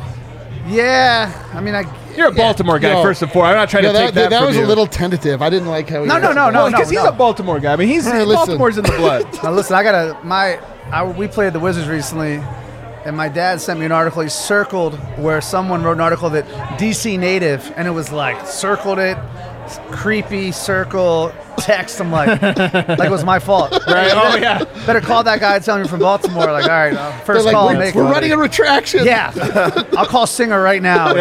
Yeah, you're a Baltimore guy, first and foremost. I'm not trying to take that from was you. a little tentative. I didn't like how he No, because he's a Baltimore guy. I mean, Baltimore's in the blood. Now, listen, we played the Wizards recently, and my dad sent me an article. He circled where someone wrote an article that DC native, and it was like, circled it, creepy circle, text. I'm like it was my fault. Right? Oh, yeah. Better call that guy and tell him you're from Baltimore. Like, all right, first call I'll make. We're running a retraction. Yeah. I'll call Singer right now.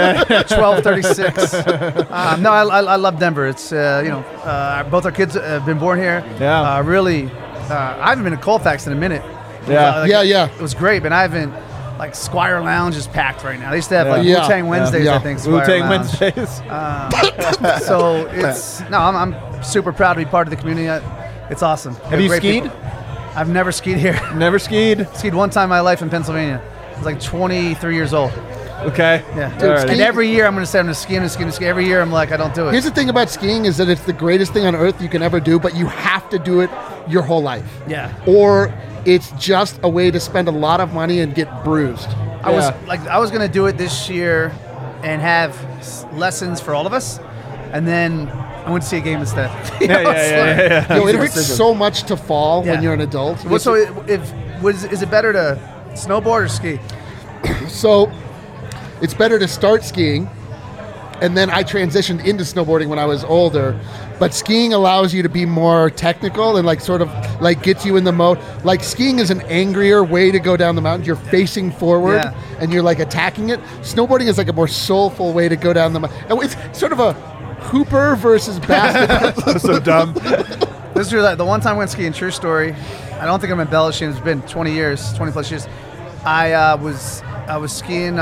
12:36. I love Denver. It's, both our kids have been born here. Yeah. Really, I haven't been to Colfax in a minute. Yeah. It was great, but I haven't. Squire Lounge is packed right now. They used to have Wu-Tang Wednesdays, I think. Wu-Tang Wednesdays. So I'm super proud to be part of the community. It's awesome. Have you skied? People. I've never skied here. Never skied? Skied one time in my life in Pennsylvania. I was like 23 years old. Okay. Yeah. Dude, and every year I'm going to say I'm going to ski. Every year I'm like, I don't do it. Here's the thing about skiing is that it's the greatest thing on earth you can ever do, but you have to do it your whole life. Yeah. Or it's just a way to spend a lot of money and get bruised. I was going to do it this year and have lessons for all of us, and then I went to see a game instead. It hurts so much to fall when you're an adult. So is it better to snowboard or ski? So it's better to start skiing, and then I transitioned into snowboarding when I was older. But skiing allows you to be more technical and gets you in the mode. Like, skiing is an angrier way to go down the mountain. You're facing forward and you're attacking it. Snowboarding is a more soulful way to go down the mountain. It's sort of a hooper versus basketball. So dumb. This is the one time I went skiing, true story. I don't think I'm embellishing. It's been 20 plus years. I was skiing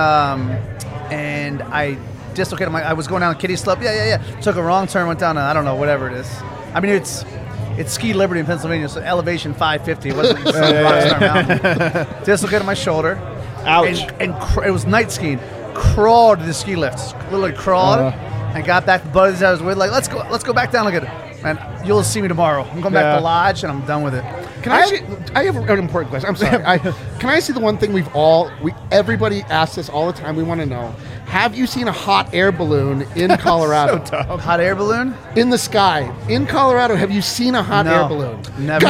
and I dislocated I was going down Kitty Slope. Took a wrong turn, went down I don't know, whatever it is. I mean, it's Ski Liberty in Pennsylvania, so elevation 550. It wasn't Rockstar Mountain. Dislocated my shoulder. Ouch. And it was night skiing. Crawled to the ski lift. Literally crawled. And got back to the buddies I was with. Like, let's go back down. Look at it. Man, you'll see me tomorrow. I'm going back to Lodge, and I'm done with it. I have an important question. I'm sorry. Can I see the one thing everybody asks us all the time? We want to know. Have you seen a hot air balloon in Colorado? So dumb. Hot air balloon? In the sky. In Colorado, have you seen a hot air balloon? Never.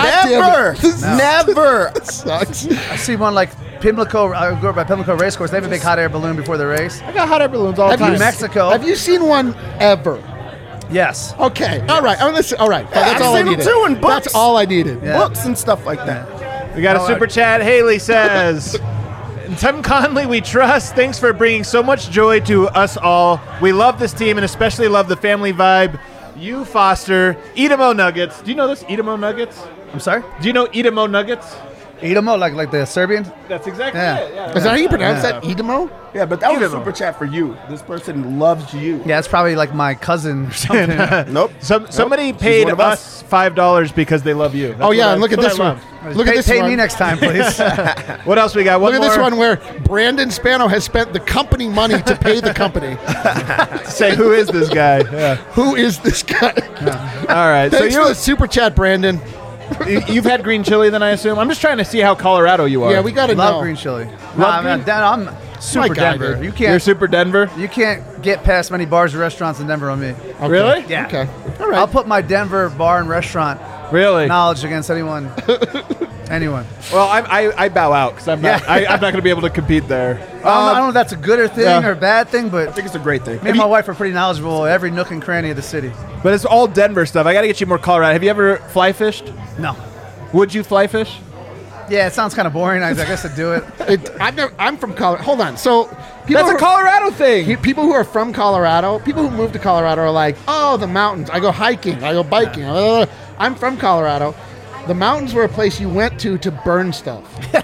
Never. That sucks. I see one Pimlico. I grew up at Pimlico Racecourse. They have a big hot air balloon before the race. I got hot air balloons all the time. In Mexico. Have you seen one ever? Yes. Okay. All right. All right. That's all I needed. I've seen them too in books. That's all I needed. Yeah. Books and stuff like that. We got a super chat. Haley says, Tim Conley, we trust. Thanks for bringing so much joy to us all. We love this team and especially love the family vibe you foster. Edamo Nuggets. Do you know this? Edamo Nuggets? I'm sorry? Do you know Edamo Nuggets? Idemo, like the Serbian? That's exactly Yeah. it. Yeah. Is that how you pronounce that? Idemo? Yeah, but that was a super chat for you. This person loves you. Yeah, it's probably like my cousin or something. Nope. Somebody She's paid one of us $5 because they love you. That's Oh, yeah, what and look at that's this what I one. love. Look at this Pay one. me next time, please. What else we got? Look at this more? one where Brandon Spano has spent the company money to pay the company. Say, who is this guy? Yeah. Who is this guy? All right. Thanks So for the super chat, Brandon. you've had green chili, then I assume. I'm just trying to see how Colorado you are. Yeah, we got to Love know. green chili. Love Man, I'm super guy, Denver. dude. You You're can't super Denver. you can't get past many bars and restaurants in Denver on me. Okay. Really? Yeah. Okay. All right. I'll put my Denver bar and restaurant Really? knowledge against anyone. Well, I bow out because I'm not. Yeah. I'm not going to be able to compete there. I don't know if that's a good or thing yeah. or bad thing, but I think it's a great thing. me and my wife are pretty knowledgeable of every nook and cranny of the city. But it's all Denver stuff. I got to get you more Colorado. Have you ever fly fished? No. Would you fly fish? Yeah, it sounds kind of boring. I guess I'd do it. I'm from Colorado. Hold on. So people That's a Colorado thing. People who are from Colorado, people who move to Colorado are like, oh, the mountains. I go hiking. I go biking. I'm from Colorado. The mountains were a place you went to burn stuff.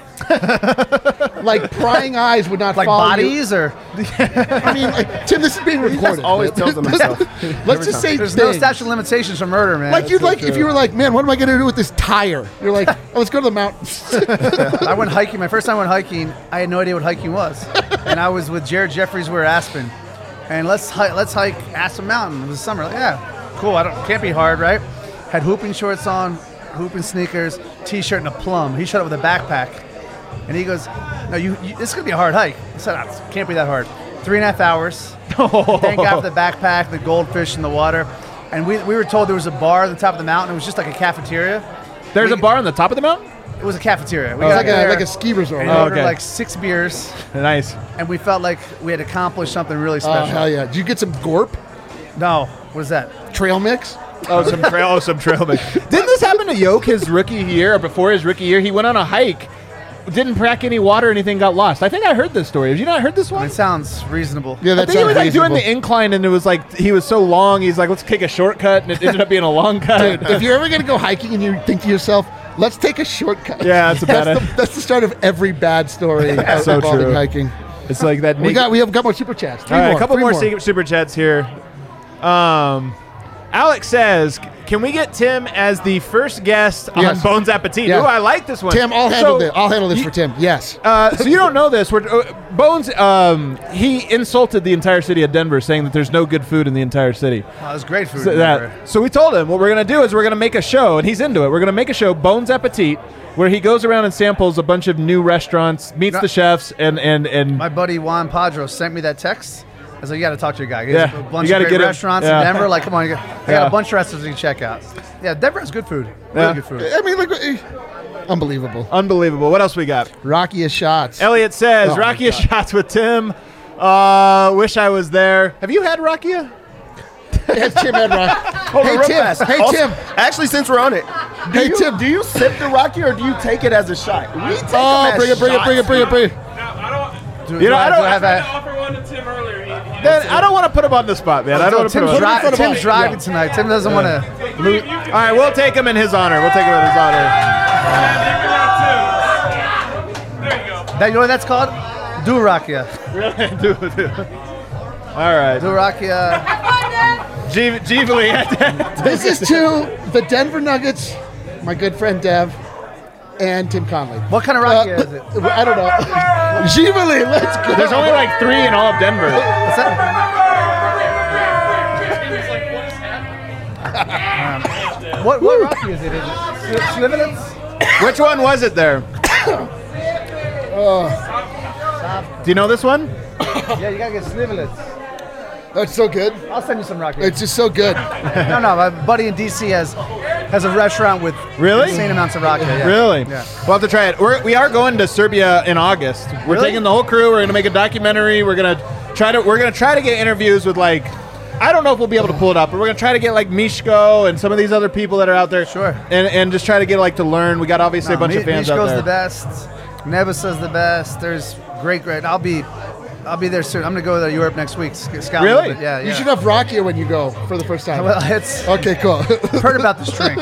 Like prying eyes would not Like follow bodies or I mean, like, Tim, this is being recorded. Always tells them himself. Let's just say there's no things. statute of limitations for murder, man. Like you'd like if you were like, man, what am I going to do with this tire? You're like, oh, let's go to the mountains. I went hiking. My first time I went hiking, I had no idea what hiking was, and I was with Jared Jeffries. We were at Aspen, and let's hike Aspen Mountain. It was summer. Like, yeah, cool. Can't be hard, right? Had hooping shorts on, hooping sneakers, t-shirt, and a plum. He showed up with a backpack, and he goes, "No, this is gonna be a hard hike." I said, "It can't be that hard." 3.5 hours. Thank God for the backpack, the goldfish in the water, and we were told there was a bar at the top of the mountain. It was just like a cafeteria. There's a bar on the top of the mountain? It was a cafeteria. We It's got like there, like a ski resort. and Right? we ordered okay. like 6 beers, Nice. and we felt like we had accomplished something really Oh, special. hell yeah. Did you get some Gorp? No, what is that? Trail mix? Some trail mix. Didn't this happen to Yoke his rookie year or before his rookie year? He went on a hike, didn't pack any water, anything, got lost. I think I heard this story. Have you not heard this I one? mean, it sounds reasonable. Yeah, I that think he sounds was like doing reasonable. the incline, and it was like he was so long. He's like, let's take a shortcut, and it ended up being a long cut. If you're ever going to go hiking and you think to yourself, let's take a shortcut. Yeah, that's a bad that's the start of every bad story So involving true. hiking. It's like that. We have got more super chats. All right, a couple Three more super chats here. Alex says, "Can we get Tim as the first guest Yes. on Bones Appetit?" Yeah. Ooh, I like this one. Tim, I'll handle this. I'll handle this for Tim. Yes. So you don't know this. Bones, he insulted the entire city of Denver, saying that there's no good food in the entire city. Oh, it was great food. So, in Denver. so we told him what we're going to do is we're going to make a show, and he's into it. We're going to make a show, Bones Appetit, where he goes around and samples a bunch of new restaurants, meets the chefs, and My buddy Juan Padro sent me that text. I was like, you got to talk to your guy. He Yeah, has a you bunch gotta of get great him. restaurants Yeah. in Denver. Like, come on, I got Yeah. a bunch of restaurants you can check out. Yeah, Denver has good food. Really Yeah. good food. I mean, unbelievable. unbelievable. What else we got? Rockiest shots. Elliot says, Oh, my Rakia God. shots with Tim. Wish I was there. Have you had Rakia? Yes, Tim had rock. Hold on, Hey, real Tim. fast. Hey, Also- Tim. Actually, since we're on it, Hey, Tim. do you sip the Rocky or do you take it as a shot? We take Oh, them as bring it. You know, I don't. Do I have that? offer one to Tim earlier. Then I don't want to put him on the spot, man. I don't want to put Tim's, him on. Tim's driving tonight. Tim doesn't want to lose. All right, we'll take him in his honor. We'll take him in his honor. There you go. You know what that's called? Durakia. Do. All right. Durakia. Givali. This is to the Denver Nuggets, my good friend Dev, and Tim Conley. What kind of rakia is it? I don't know. Givali, let's go. There's only like 3 in all of Denver. What's that? What rakia is it? Is it Slivovitz? Which one was it there? Do you know this one? Yeah, you gotta get Slivovitz. That's so good. I'll send you some rakia. It's just so good. No, my buddy in DC has a restaurant with Really? insane amounts of rakia. Yeah. Really? Yeah. We'll have to try it. We are going to Serbia in August. We're Really? taking the whole crew. We're going to make a documentary. We're going to try to get interviews with like, I don't know if we'll be able to pull it up, but we're going to try to get like Mishko and some of these other people that are out there. Sure. And just try to get like to learn. We got obviously a bunch of fans out Mishko's there. the best. Nebusa's the best. There's great. I'll be I'll be there soon. I'm gonna go to Europe next week. Scout Really? a little bit. Yeah. You should have Rakia when you go for the first time. Well, it's okay, cool. heard about this drink.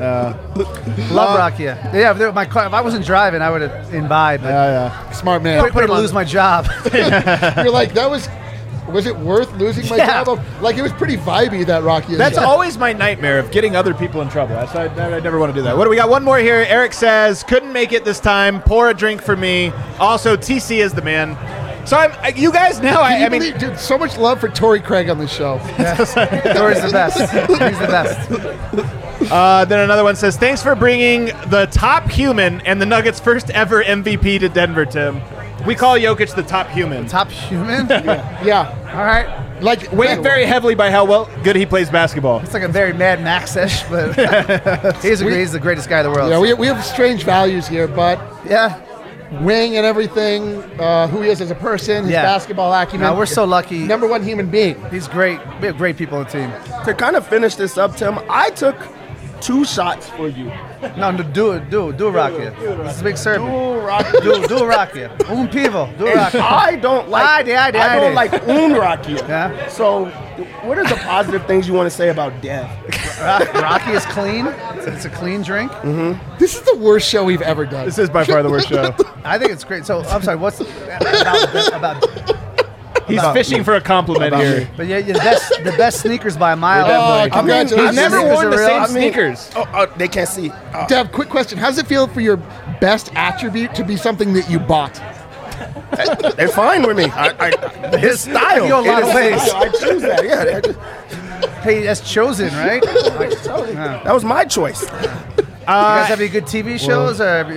Love Rakia. Yeah, my car. If I wasn't driving, I would have imbibed. Smart man. Quick way to lose my job. You're like, was it worth losing my job? Like, it was pretty vibey, that Rakia. That's always my nightmare of getting other people in trouble. I never want to do that. What do we got? One more here. Eric says, couldn't make it this time. Pour a drink for me. Also, TC is the man. So you guys now, I mean, dude, so much love for Torrey Craig on this show. Torrey's the best. He's the best. Then another one says, thanks for bringing the top human and the Nuggets' first ever MVP to Denver, Tim. We call Jokic the top human. Top human? Yeah. All right. Like, Weighed very heavily by how good he plays basketball. It's like a very Mad Max-ish, but he's the greatest guy in the world. Yeah, we have strange values here, but wing and everything, who he is as a person, his basketball acumen. No, we're so lucky. Number one human being. He's great. We have great people on the team. To kind of finish this up, Tim, I took 2 shots for you. No, do Rakia. This is a big servant. Do Rakia. Pivo. Do Rakia. I don't like. I don't like Rakia. Yeah. So, what are the positive things you want to say about Dev? Rakia is clean. It's a clean drink. Mm-hmm. This is the worst show we've ever done. This is by far the worst show. I think it's great. So I'm sorry. What's about? He's fishing for a compliment here. But yeah, the best sneakers by a mile. Congratulations. He's never worn the same I mean, sneakers. They can't see. Dev, quick question. How does it feel for your best attribute to be something that you bought? They're fine with me. His style. You go a lot of ways. I choose that. Yeah. Hey, that's chosen, right? That was my choice. You guys have any good TV shows?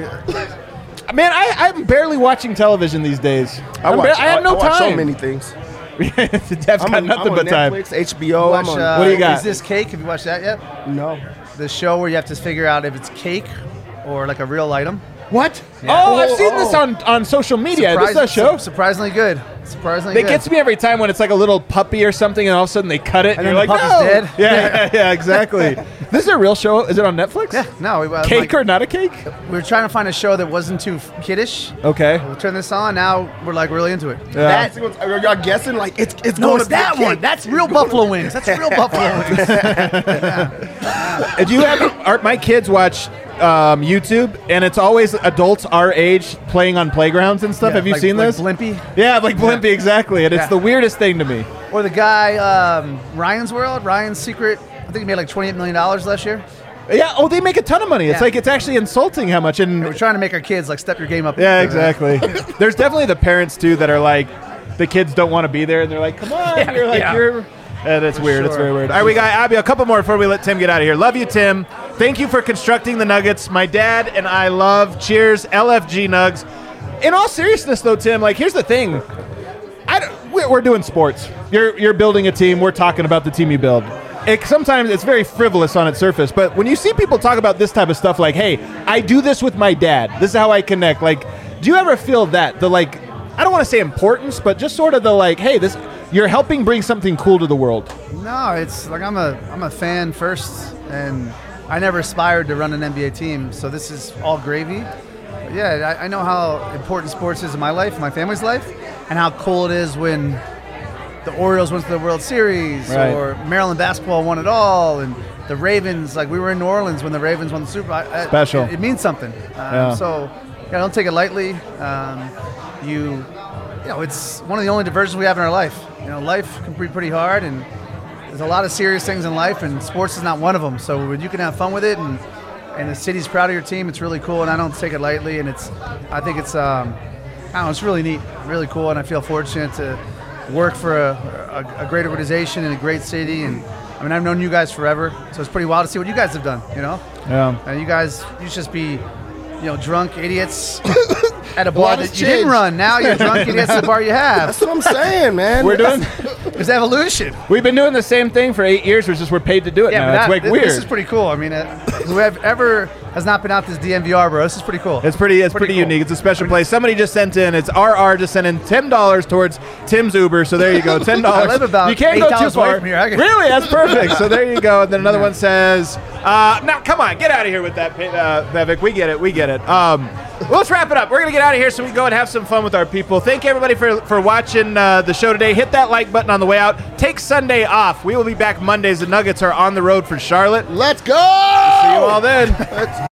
Man, I'm barely watching television these days. I have no watch time. so many things. Dev's got nothing but time. Netflix, HBO. What do you got? Is This Cake? Have you watched that yet? No. The show where you have to figure out if it's cake or like a real item. What? Yeah. Oh, I've seen this on social media. This is a show? Surprisingly good. It gets me every time when it's like a little puppy or something, and all of a sudden they cut it, and you're like, the puppy's no! dead. Yeah, exactly. This is a real show. Is it on Netflix? Yeah, no. Cake or not a cake? We were trying to find a show that wasn't too kiddish. Okay. We'll turn this on. Now we're like really into it. Yeah. Are y'all guessing? Like, it's No, going it's to be that a cake. one. That's real buffalo wings. That's real buffalo wings. Do you have my kids watch YouTube, and it's always adults our age playing on playgrounds and stuff. Have you seen this? Blimpy? Yeah, like Blimpy, exactly. And it's the weirdest thing to me. Or the guy, Ryan's World, Ryan's Secret. I think he made like $28 million last year. Yeah. Oh, they make a ton of money. It's like it's actually insulting how much. And we're trying to make our kids like step your game up. Yeah, exactly. There's definitely the parents too that are like, the kids don't want to be there, and they're like, "Come on, you're." And it's weird. Sure. It's very weird. All right, we got Abby. A couple more before we let Tim get out of here. Love you, Tim. Thank you for constructing the Nuggets. My dad and I love. Cheers, LFG Nugs. In all seriousness, though, Tim, like here's the thing. We're doing sports. You're building a team. We're talking about the team you build. Sometimes it's very frivolous on its surface, but when you see people talk about this type of stuff, like, "Hey, I do this with my dad. This is how I connect." Like, do you ever feel that the like? I don't want to say importance, but just sort of the like, "Hey, this." You're helping bring something cool to the world. No, it's like I'm a fan first, and I never aspired to run an NBA team, so this is all gravy. But yeah, I know how important sports is in my life, my family's life, and how cool it is when the Orioles went to the World Series, or Maryland basketball won it all, and the Ravens, like we were in New Orleans when the Ravens won the Super Bowl. Special. It means something. So don't take it lightly. You know, it's one of the only diversions we have in our life. You know, life can be pretty hard, and there's a lot of serious things in life, and sports is not one of them. So when you can have fun with it, and the city's proud of your team, it's really cool, and I don't take it lightly. And I think it's it's really neat, really cool, and I feel fortunate to work for a great organization in a great city. And I mean, I've known you guys forever, so it's pretty wild to see what you guys have done. You know, and you should just be, drunk idiots. At a bar that you didn't run. Now you're drunk idiots at the bar you have. That's what I'm saying, man. There's evolution. We've been doing the same thing for 8 years. We're paid to do it now. It's like weird. This is pretty cool. I mean, whoever has not been out to this DMVR, bro, this is pretty cool. It's pretty cool. Unique. It's a special place. Somebody just sent in. It's RR just sent in $10 towards Tim's Uber. So there you go, $10. I live about you can't 8 go too towns far. away from here. Really, that's perfect. So there you go. And then another one says, "Now come on, get out of here with that, Vivek. We get it. Well, let's wrap it up. We're gonna get out of here so we can go and have some fun with our people. Thank everybody for watching the show today. Hit that like button on the way out. Take Sunday off. We will be back Mondays. The Nuggets are on the road for Charlotte. Let's go. See you all then.